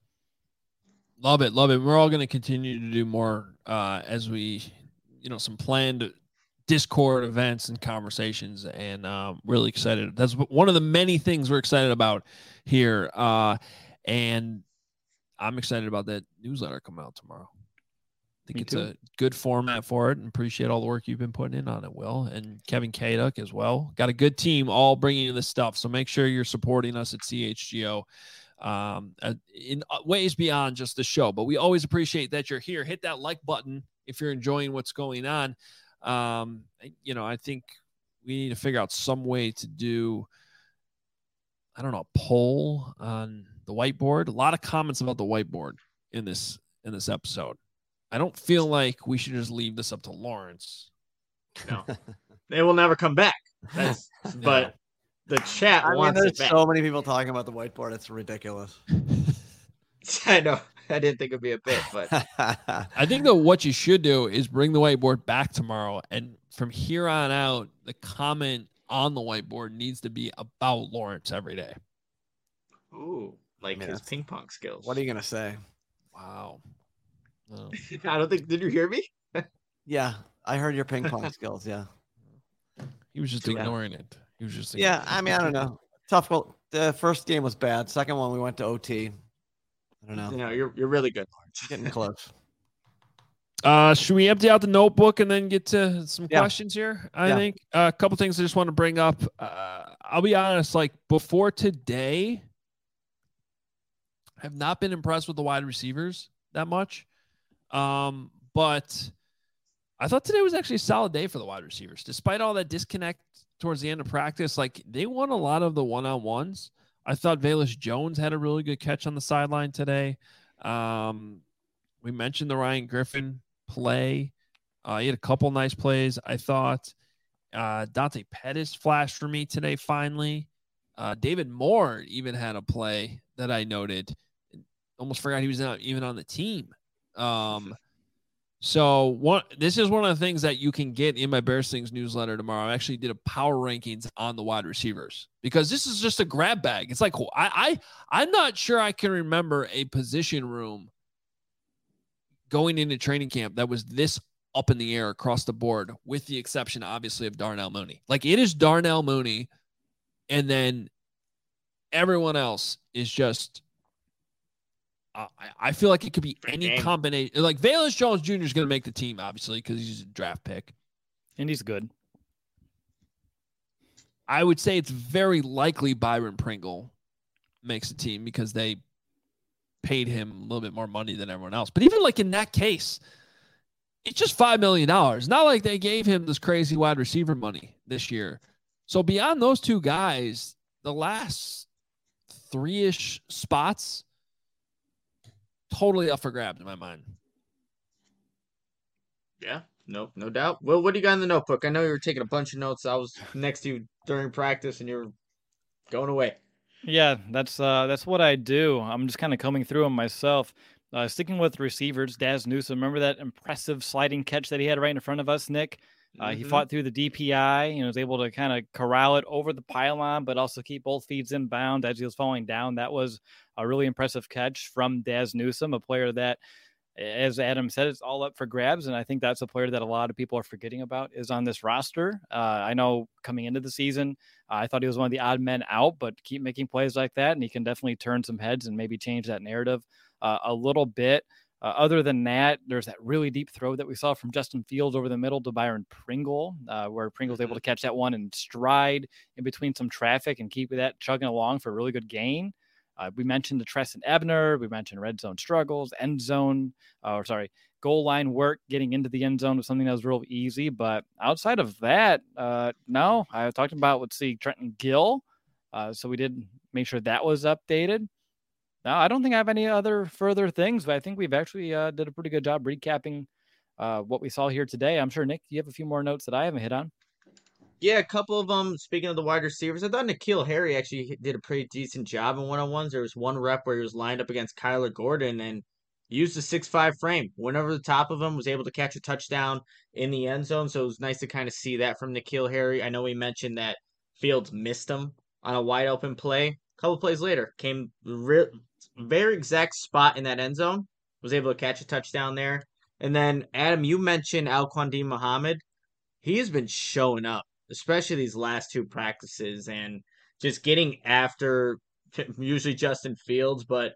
Love it. Love it. We're all going to continue to do more as we, some planned Discord events and conversations, and really excited. That's one of the many things we're excited about here. And I'm excited about that newsletter coming out tomorrow. I think it's a good format for it, and appreciate all the work you've been putting in on it, Will, and Kevin Kaduk as well. Got a good team all bringing you this stuff. So make sure you're supporting us at CHGO in ways beyond just the show. But we always appreciate that you're here. Hit that like button if you're enjoying what's going on. I think we need to figure out some way to do, a poll on the whiteboard. A lot of comments about the whiteboard in this episode. I don't feel like we should just leave this up to Lawrence. No, they will never come back. But the chat wants it back. So many people talking about the whiteboard. It's ridiculous. I know. I didn't think it'd be a bit, but I think that what you should do is bring the whiteboard back tomorrow. And from here on out, the comment on the whiteboard needs to be about Lawrence every day. Ooh, his ping pong skills. What are you going to say? Wow. No. I don't think. Did you hear me? Yeah, I heard your ping pong skills. Yeah, he was just ignoring it. He was just. Yeah, I don't know. Tough. Well, the first game was bad. Second one, we went to OT. I don't know. You're really good, Lawrence. Getting close. Should we empty out the notebook and then get to some questions here? I think a couple things I just want to bring up. I'll be honest. Before today, I have not been impressed with the wide receivers that much. But I thought today was actually a solid day for the wide receivers, despite all that disconnect towards the end of practice. They won a lot of the one-on-ones. I thought Velus Jones had a really good catch on the sideline today. We mentioned the Ryan Griffin play. He had a couple nice plays. I thought Dante Pettis flashed for me today. Finally, David Moore even had a play that I noted. Almost forgot he was not even on the team. This is one of the things that you can get in my Bears Things newsletter tomorrow. I actually did a power rankings on the wide receivers because this is just a grab bag. It's I'm not sure I can remember a position room going into training camp that was this up in the air across the board, with the exception, obviously, of Darnell Mooney. It is Darnell Mooney, and then everyone else is just I feel like it could be any combination. Velus Jones Jr. is going to make the team, obviously, because he's a draft pick. And he's good. I would say it's very likely Byron Pringle makes the team because they paid him a little bit more money than everyone else. But even like in that case, it's just $5 million. Not like they gave him this crazy wide receiver money this year. So beyond those two guys, the last 3-ish spots, totally up for grabs in my mind. Yeah, no doubt. Well, what do you got in the notebook? I know you were taking a bunch of notes. I was next to you during practice, and you're going away. Yeah, that's what I do. I'm just kind of combing through them myself. Sticking with receivers, Daz Newsome. Remember that impressive sliding catch that he had right in front of us, Nick? He fought through the DPI and was able to kind of corral it over the pylon, but also keep both feet in bounds as he was falling down. That was a really impressive catch from Daz Newsome, a player that, as Adam said, it's all up for grabs. And I think that's a player that a lot of people are forgetting about is on this roster. I know coming into the season, I thought he was one of the odd men out, but keep making plays like that. And he can definitely turn some heads and maybe change that narrative a little bit. Other than that, there's that really deep throw that we saw from Justin Fields over the middle to Byron Pringle, where Pringle was able to catch that one in stride in between some traffic and keep that chugging along for a really good gain. We mentioned the Treston Ebner. We mentioned red zone struggles, goal line work, getting into the end zone was something that was real easy. But outside of that, no, I talked about, Trenton Gill. So we did make sure that was updated. No, I don't think I have any other further things, but I think we've actually did a pretty good job recapping what we saw here today. I'm sure, Nick, you have a few more notes that I haven't hit on. Yeah, a couple of them. Speaking of the wide receivers, I thought N'Keal Harry actually did a pretty decent job in one-on-ones. There was one rep where he was lined up against Kyler Gordon and used the 6'5" frame. Went over the top of him, was able to catch a touchdown in the end zone. So it was nice to kind of see that from N'Keal Harry. I know we mentioned that Fields missed him on a wide open play. A couple plays later, came very exact spot in that end zone. Was able to catch a touchdown there. And then, Adam, you mentioned Al-Quandim Muhammad. He has been showing up, especially these last two practices, and just getting after usually Justin Fields, but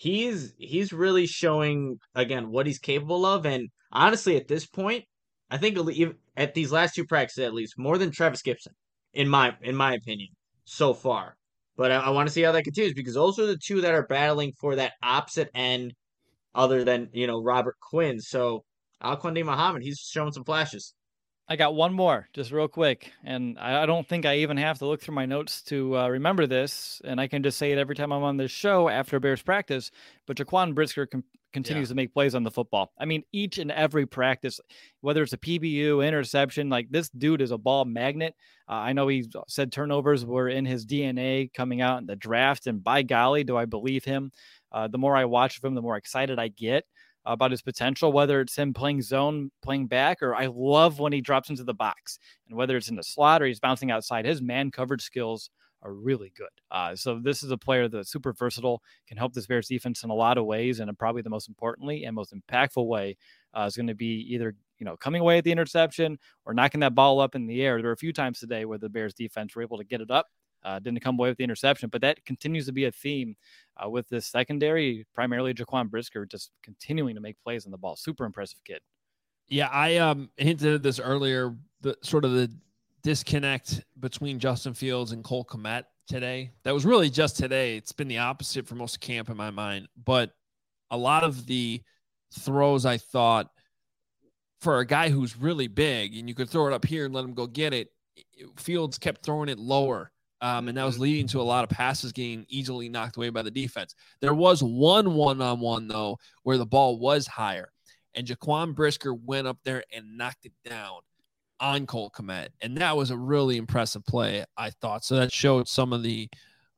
he's really showing again what he's capable of. And honestly, at this point, I think at these last two practices, at least more than Travis Gibson, in my opinion, so far. But I want to see how that continues because those are the two that are battling for that opposite end, other than Robert Quinn. So Al-Quandim Muhammad, he's showing some flashes. I got one more, just real quick, and I don't think I even have to look through my notes to remember this, and I can just say it every time I'm on this show after Bears practice, but Jaquan Brisker continues to make plays on the football. I mean, each and every practice, whether it's a PBU, interception, like this dude is a ball magnet. I know he said turnovers were in his DNA coming out in the draft, and by golly, do I believe him. The more I watch of him, the more excited I get about his potential, whether it's him playing zone, playing back, or I love when he drops into the box. And whether it's in the slot or he's bouncing outside, his man coverage skills are really good. So this is a player that's super versatile, can help this Bears defense in a lot of ways, and probably the most importantly and most impactful way is going to be either coming away at the interception or knocking that ball up in the air. There were a few times today where the Bears defense were able to get it up. Didn't come away with the interception, but that continues to be a theme with this secondary, primarily Jaquan Brisker, just continuing to make plays on the ball. Super impressive kid. Yeah, I hinted at this earlier, the sort of the disconnect between Justin Fields and Cole Kmet today. That was really just today. It's been the opposite for most of camp in my mind, but a lot of the throws I thought for a guy who's really big and you could throw it up here and let him go get it, Fields kept throwing it lower. And that was leading to a lot of passes getting easily knocked away by the defense. There was one-on-one, though, where the ball was higher. And Jaquan Brisker went up there and knocked it down on Cole Kmet. And that was a really impressive play, I thought. So that showed some of the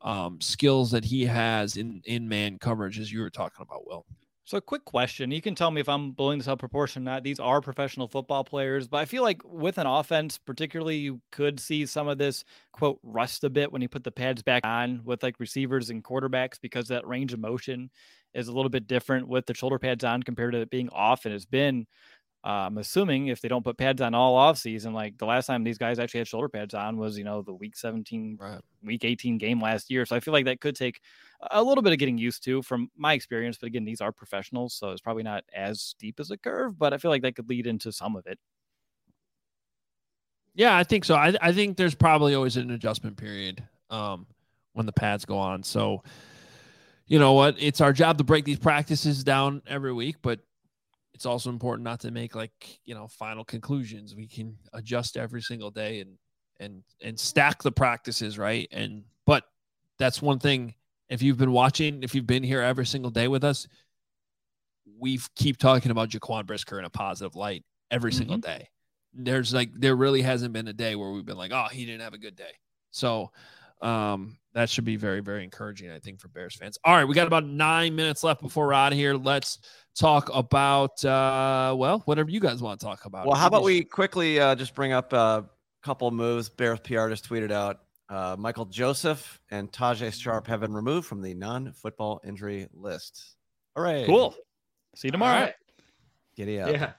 skills that he has in man coverage, as you were talking about, Will. So a quick question. You can tell me if I'm blowing this out of proportion or not. These are professional football players, but I feel like with an offense, particularly, you could see some of this, quote, rust a bit when you put the pads back on with like receivers and quarterbacks because that range of motion is a little bit different with the shoulder pads on compared to it being off. And it's been, I'm assuming if they don't put pads on all off season, like the last time these guys actually had shoulder pads on was, the week 17, week 18 game last year. So I feel like that could take a little bit of getting used to from my experience. But again, these are professionals, so it's probably not as steep as a curve, but I feel like that could lead into some of it. Yeah, I think so. I think there's probably always an adjustment period when the pads go on. So, you know what? It's our job to break these practices down every week, but it's also important not to make final conclusions. We can adjust every single day and stack the practices, right? But that's one thing. If you've been watching, if you've been here every single day with us, we keep talking about Jaquan Brisker in a positive light every single day. There really hasn't been a day where we've been like, oh, he didn't have a good day. So that should be very, very encouraging, I think, for Bears fans. All right, we got about 9 minutes left before we're out of here. Let's talk about, whatever you guys want to talk about. Well, how about we quickly just bring up a couple of moves Bears PR just tweeted out. Michael Joseph and Tajay Sharp have been removed from the non-football injury list. Hooray. Cool. See you tomorrow. Right. Giddy up. Yeah.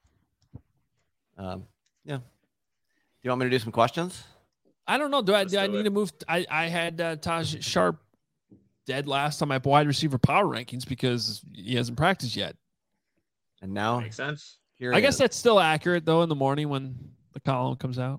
Yeah. Do you want me to do some questions? I don't know. Do I need to move? I had Taj Sharp dead last on my wide receiver power rankings because he hasn't practiced yet. And now makes sense. I guess that's still accurate though in the morning when the column comes out.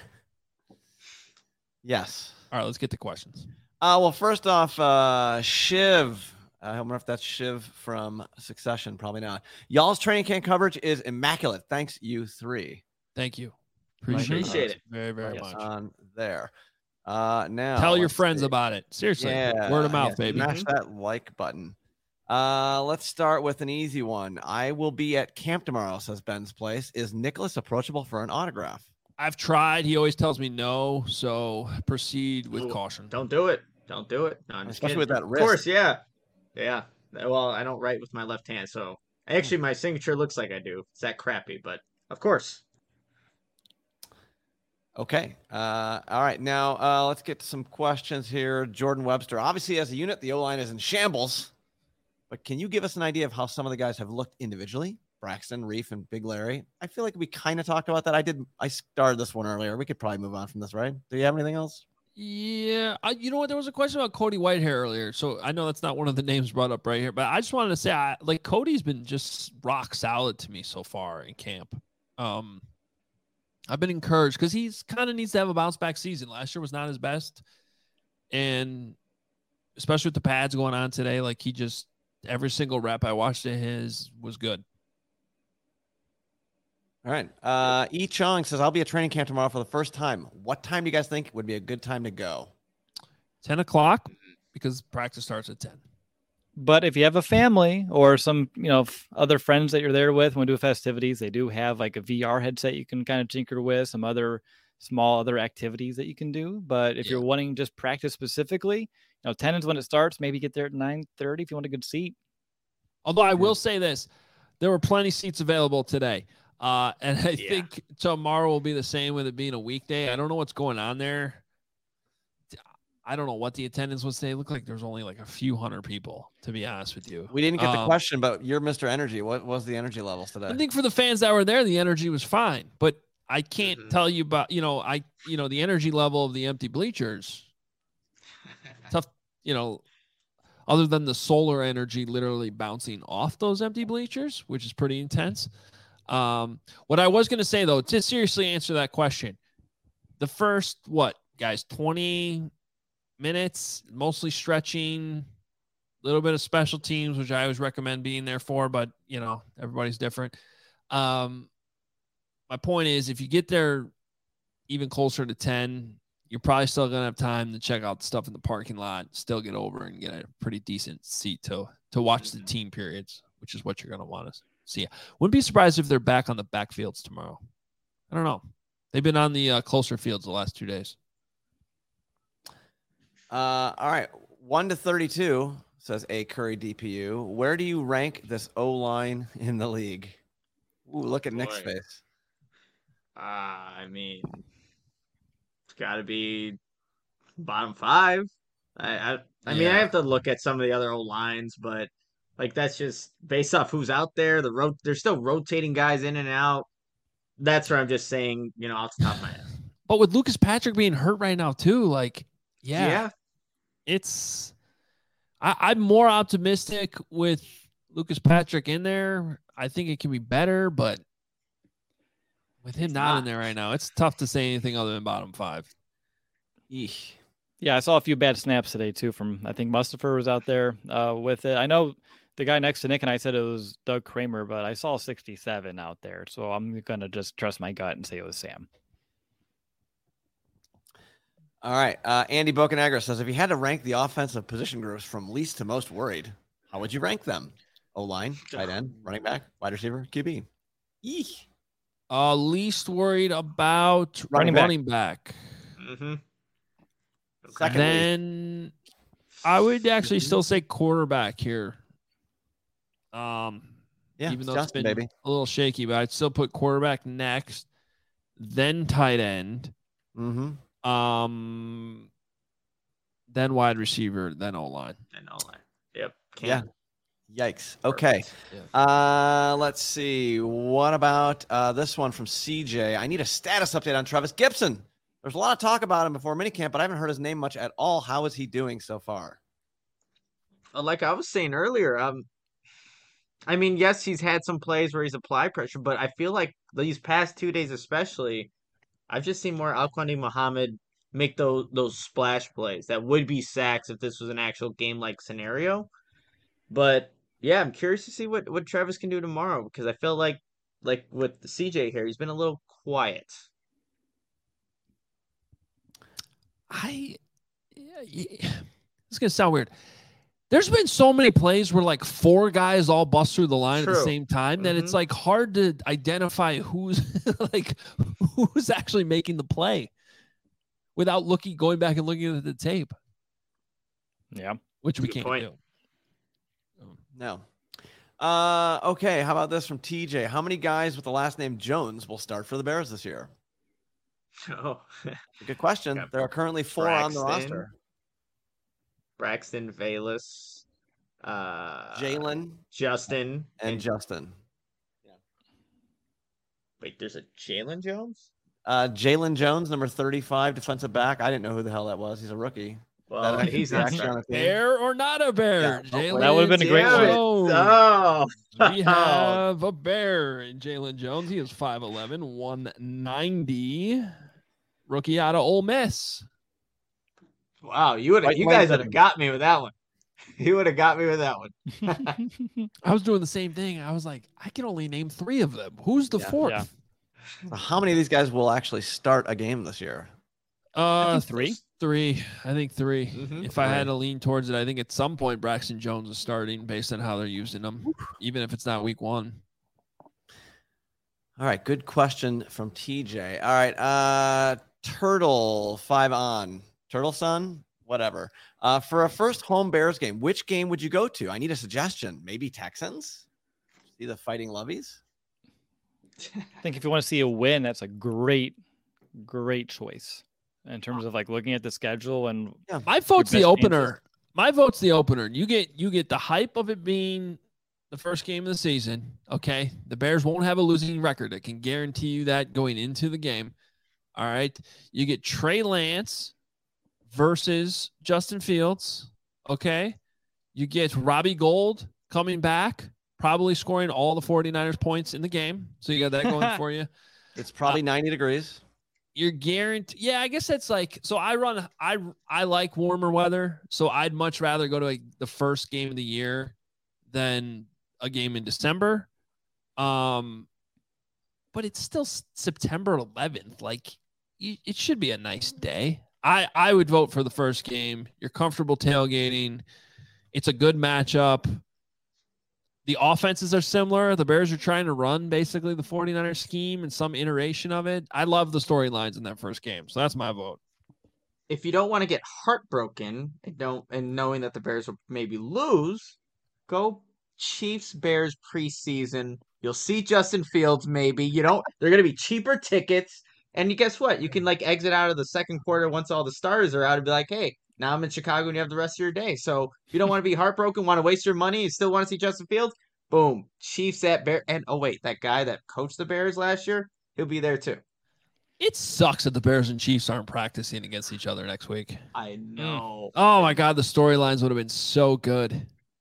Yes. All right, let's get to questions. Well, first off, Shiv. I wonder if that's Shiv from Succession. Probably not. Y'all's training camp coverage is immaculate. Thanks, you three. Thank you. Appreciate it. Very, very much. On there. Now tell your friends about it. Seriously. Yeah, word of mouth, baby. Smash that like button. Let's start with an easy one. I will be at camp tomorrow, says Ben's Place. Is Nicholas approachable for an autograph? I've tried. He always tells me no, so proceed with caution. Don't do it. Don't do it. No, especially with that wrist. Of course, yeah. Yeah. Well, I don't write with my left hand, so actually my signature looks like I do. It's that crappy, but of course. Okay. All right. Now let's get to some questions here. Jordan Webster. Obviously, as a unit, the O-line is in shambles. But can you give us an idea of how some of the guys have looked individually? Braxton, Reef, and Big Larry. I feel like we kind of talked about that. I started this one earlier. We could probably move on from this, right? Do you have anything else? Yeah. You know what? There was a question about Cody Whitehair earlier. So I know that's not one of the names brought up right here, but I just wanted to say, Cody's been just rock solid to me so far in camp. I've been encouraged because he's kind of needs to have a bounce back season. Last year was not his best. And especially with the pads going on today, every single rep I watched of his was good. All right. E. Chong says, I'll be at training camp tomorrow for the first time. What time do you guys think would be a good time to go? 10 o'clock because practice starts at 10. But if you have a family or some, other friends that you're there with, want to do festivities, they do have like a VR headset you can kind of tinker with, some other small other activities that you can do. But if you're wanting just practice specifically, 10 is when it starts. Maybe get there at 9:30 if you want a good seat. Although I will say this, there were plenty of seats available today. And I think tomorrow will be the same with it being a weekday. I don't know what's going on there. I don't know what the attendance was today. It looked like there was only like a few hundred people, to be honest with you. We didn't get the question, but you're Mr. Energy. What was the energy levels today? I think for the fans that were there, the energy was fine. But I can't tell you about, the energy level of the empty bleachers. Tough, other than the solar energy literally bouncing off those empty bleachers, which is pretty intense. What I was going to say, though, to seriously answer that question, the first, 20 minutes, mostly stretching, a little bit of special teams, which I always recommend being there for, but, everybody's different. My point is, if you get there even closer to 10, you're probably still going to have time to check out the stuff in the parking lot, still get over and get a pretty decent seat to watch the team periods, which is what you're going to want to see. Wouldn't be surprised if they're back on the backfields tomorrow. I don't know. They've been on the closer fields the last 2 days. All right. 1 to 32, says A. Curry DPU. Where do you rank this O-line in the league? Ooh, look at Nick's face. I mean, it's got to be bottom 5. I mean, I have to look at some of the other O-lines, but that's just based off who's out there. They're still rotating guys in and out. That's where I'm just saying, off the top of my head. But with Lucas Patrick being hurt right now too, it's I'm more optimistic with Lucas Patrick in there. I think it can be better, but With him not in there right now, it's tough to say anything other than bottom 5. Eesh. Yeah, I saw a few bad snaps today too. From I think Mustafa was out there with it. I know the guy next to Nick and I said it was Doug Kramer, but I saw 67 out there, so I'm gonna just trust my gut and say it was Sam. All right. Andy Bocanegra says, if you had to rank the offensive position groups from least to most worried, how would you rank them? O-line, tight end, running back, wide receiver, QB. Eesh. Least worried about running back. Mm-hmm. Second Then I would actually still say quarterback here. Yeah, even though Justin, it's been baby. a little shaky, but I'd still put quarterback next, then tight end, Mm-hmm. then wide receiver, then O-line. And all that. Yep. Yeah. Yikes. Okay. Yeah. Let's see. What about this one from CJ? I need a status update on Travis Gibson. There's a lot of talk about him before minicamp, but I haven't heard his name much at all. How is he doing so far? Like I was saying earlier, I mean, yes, he's had some plays where he's applied pressure, but I feel like these past 2 days especially, I've just seen more Alquandi Muhammad make those splash plays that would be sacks if this was an actual game-like scenario. But yeah, I'm curious to see what Travis can do tomorrow because I feel like with the CJ here, he's been a little quiet. It's gonna sound weird. There's been so many plays where like 4 guys all bust through the line at the True. same time that it's like hard to identify who's who's actually making the play without going back and looking at the tape, Yeah. which we Good can't point. do. No. Okay. How about this from TJ? How many guys with the last name Jones will start for the Bears this year? Oh, Good question. Got There are currently 4 on the Braxton. roster. Braxton, Valus, Jalen Justin, and Justin. wait, there's a Jalen Jones? Jalen Jones, number 35, defensive back. I didn't know who the hell that was. He's a rookie. Well, That he's actually not actually on starting. the team. Bear or not a bear? Yeah, Jalen that would've been a great one. Jones. Oh, We have a bear in Jalen Jones. He is 5'11", 190. Rookie out of Ole Miss. wow, you White guys would Legend. have got me with that one. You would have got me with that one. I was doing the same thing. I was like, I can only name 3 of them. Who's the Yeah. 4th? Yeah. So how many of these guys will actually start a game this year? I think 3. 3. I think 3. Mhm. If I had to lean towards it, I think at some point Braxton Jones is starting based on how they're using him, even if it's not week 1. All right, good question from TJ. All right, Turtle 5 on. Turtle Son, whatever. For a first home Bears game, which game would you go to? I need a suggestion. Maybe Texans? See the Fighting Lovies? I think if you want to see a win, that's a great choice in terms of like looking at the schedule and My vote's the best opener. chances. My vote's the opener. You get the hype of it being the first game of the season. Okay, the Bears won't have a losing record. I can guarantee you that going into the game. All right, you get Trey Lance versus Justin Fields. Okay, you get Robbie Gould coming back, probably scoring all the 49ers points in the game. So you got that going for you. It's probably 90 degrees. You're guaranteed. Yeah, I guess that's like, so I like warmer weather. So I'd much rather go to the first game of the year than a game in December. But it's still September 11th. Like it should be a nice day. I would vote for the first game. You're comfortable tailgating. It's a good matchup. The offenses are similar. The Bears are trying to run basically the 49ers scheme and some iteration of it. I love the storylines in that first game. So that's my vote. If you don't want to get heartbroken and knowing that the Bears will maybe lose, go Chiefs Bears preseason. You'll see Justin Fields maybe. They're going to be cheaper tickets. And guess what? You can like exit out of the second quarter once all the stars are out and be like, hey, now I'm in Chicago and you have the rest of your day. So if you don't want to be heartbroken, want to waste your money, and still want to see Justin Fields, boom, Chiefs at Bear. And oh wait, that guy that coached the Bears last year, he'll be there too. It sucks that the Bears and Chiefs aren't practicing against each other next week. I know. Oh my God, the storylines would have been so good.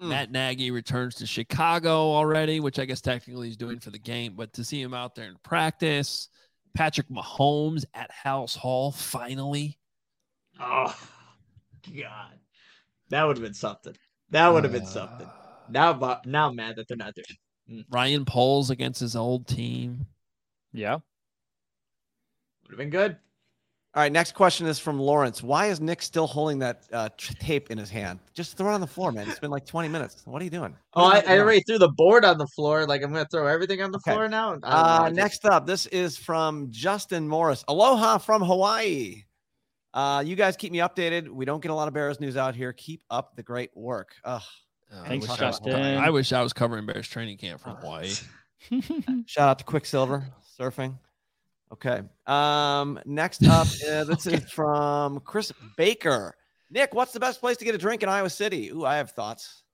Matt Nagy returns to Chicago already, which I guess technically he's doing for the game, but to see him out there in practice, Patrick Mahomes at House Hall finally. Oh, God. That would have been something. That would have been something. Now I'm mad that they're not there. Ryan Poles against his old team. Yeah. Would have been good. All right, next question is from Lawrence. Why is Nick still holding that tape in his hand? Just throw it on the floor, man. It's been like 20 minutes. What are you doing? I already threw the board on the floor. Like, I'm going to throw everything on the floor now? Next up, this is from Justin Morris. Aloha from Hawaii. You guys keep me updated. We don't get a lot of Bears news out here. Keep up the great work. Thanks, Justin. I wish I was covering Bears training camp from Hawaii. Shout out to Quicksilver Surfing. Okay. Next up, this is from Chris Baker. Nick, what's the best place to get a drink in Iowa City? Ooh, I have thoughts.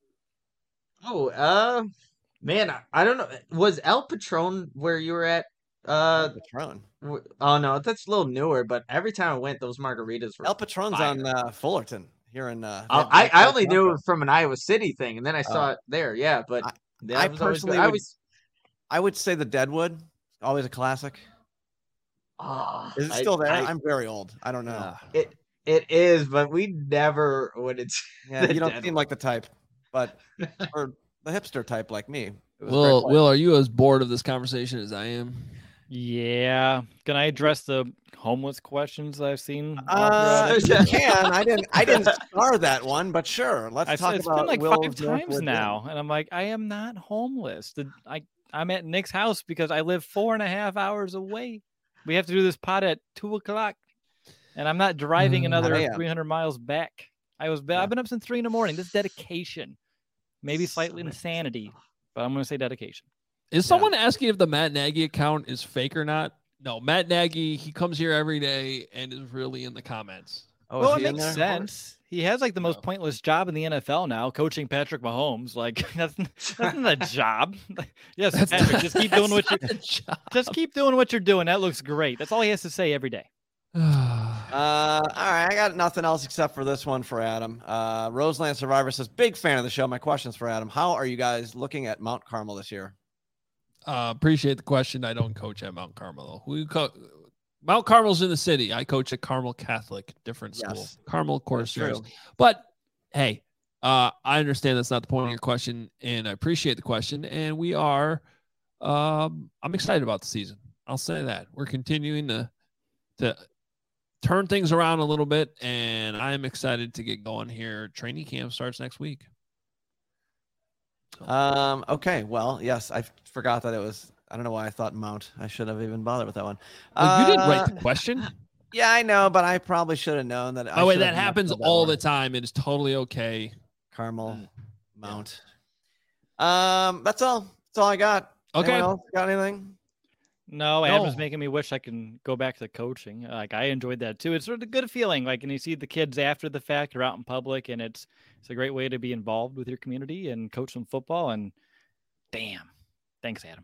Oh, man, I don't know. Was El Patron where you were at? El Patron. Oh no, that's a little newer. But every time I went, those margaritas were. El Patron's fire. On Fullerton here in. I only knew it from an Iowa City thing, and then I saw it there. Yeah, but I personally would say the Deadwood, always a classic. Oh, is it still there? I'm very old. I don't know. It is, but we never would. Yeah, you don't seem like the type, but or the hipster type like me. Will, are you as bored of this conversation as I am? Yeah. Can I address the homeless questions I've seen? You can. I didn't star that one, but sure. Let's talk about. It's been like Will's 5 times now, and I'm like, I am not homeless. I'm at Nick's house because I live 4.5 hours away. We have to do this pod at 2:00, and I'm not driving another 300 miles back. I've been up since 3 in the morning. This is dedication, maybe slightly insanity, but I'm going to say dedication. Is someone asking if the Matt Nagy account is fake or not? No, Matt Nagy, he comes here every day and is really in the comments. Oh, well, it makes sense. He has like the most pointless job in the NFL now, coaching Patrick Mahomes. Like that's not a job. Yes, Patrick, just keep doing what you're doing. That looks great. That's all he has to say every day. All right, I got nothing else except for this one for Adam. Roseland Survivor says, big fan of the show. My question's for Adam. How are you guys looking at Mount Carmel this year? Appreciate the question. I don't coach at Mount Carmel. Mount Carmel's in the city. I coach at Carmel Catholic, different school. Yes. Carmel, of course. But hey, I understand that's not the point of your question, and I appreciate the question. And we are, I'm excited about the season. I'll say that we're continuing to turn things around a little bit, and I'm excited to get going here. Training camp starts next week. Okay. Well, yes, I forgot that it was. I don't know why I thought Mount. I should have even bothered with that one. Well, you didn't write the question. Yeah, I know, but I probably should have known that. Oh, wait, that happens all the time. It is totally okay. Carmel, Mount. That's all. That's all I got. Okay. Anyone else got anything? No, Adam's making me wish I can go back to coaching. Like I enjoyed that too. It's sort of a good feeling. Like, and you see the kids after the fact are out in public, and it's a great way to be involved with your community and coach some football. And damn, thanks, Adam.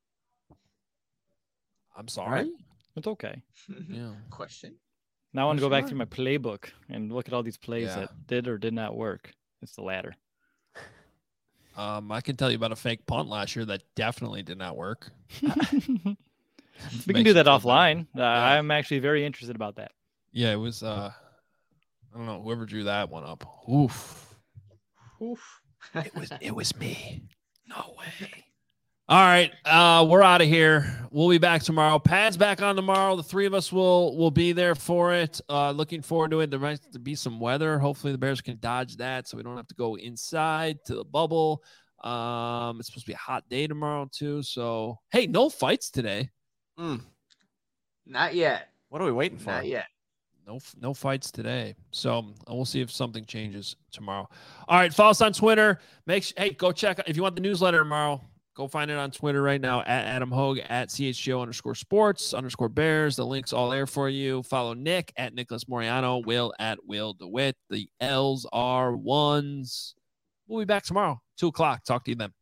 I'm sorry. It's okay. Yeah. Question. Now I want to go back through my playbook and look at all these plays that did or did not work. It's the latter. I can tell you about a fake punt last year that definitely did not work. We can do that offline. I'm actually very interested about that. Yeah, it was. I don't know whoever drew that one up. Oof. It was me. No way. All right, we're out of here. We'll be back tomorrow. Pad's back on tomorrow. The three of us will be there for it. Looking forward to it. There might be some weather. Hopefully the Bears can dodge that so we don't have to go inside to the bubble. It's supposed to be a hot day tomorrow too. So, hey, no fights today. Not yet. What are we waiting for? Not yet. No fights today. So we'll see if something changes tomorrow. All right, follow us on Twitter. Hey, go check if you want the newsletter tomorrow. Go find it on Twitter right now at Adam Hogue, at CHGO_sports_Bears. The link's all there for you. Follow Nick at Nicholas Moriano, Will at Will DeWitt. The L's are ones. We'll be back tomorrow, 2:00. Talk to you then.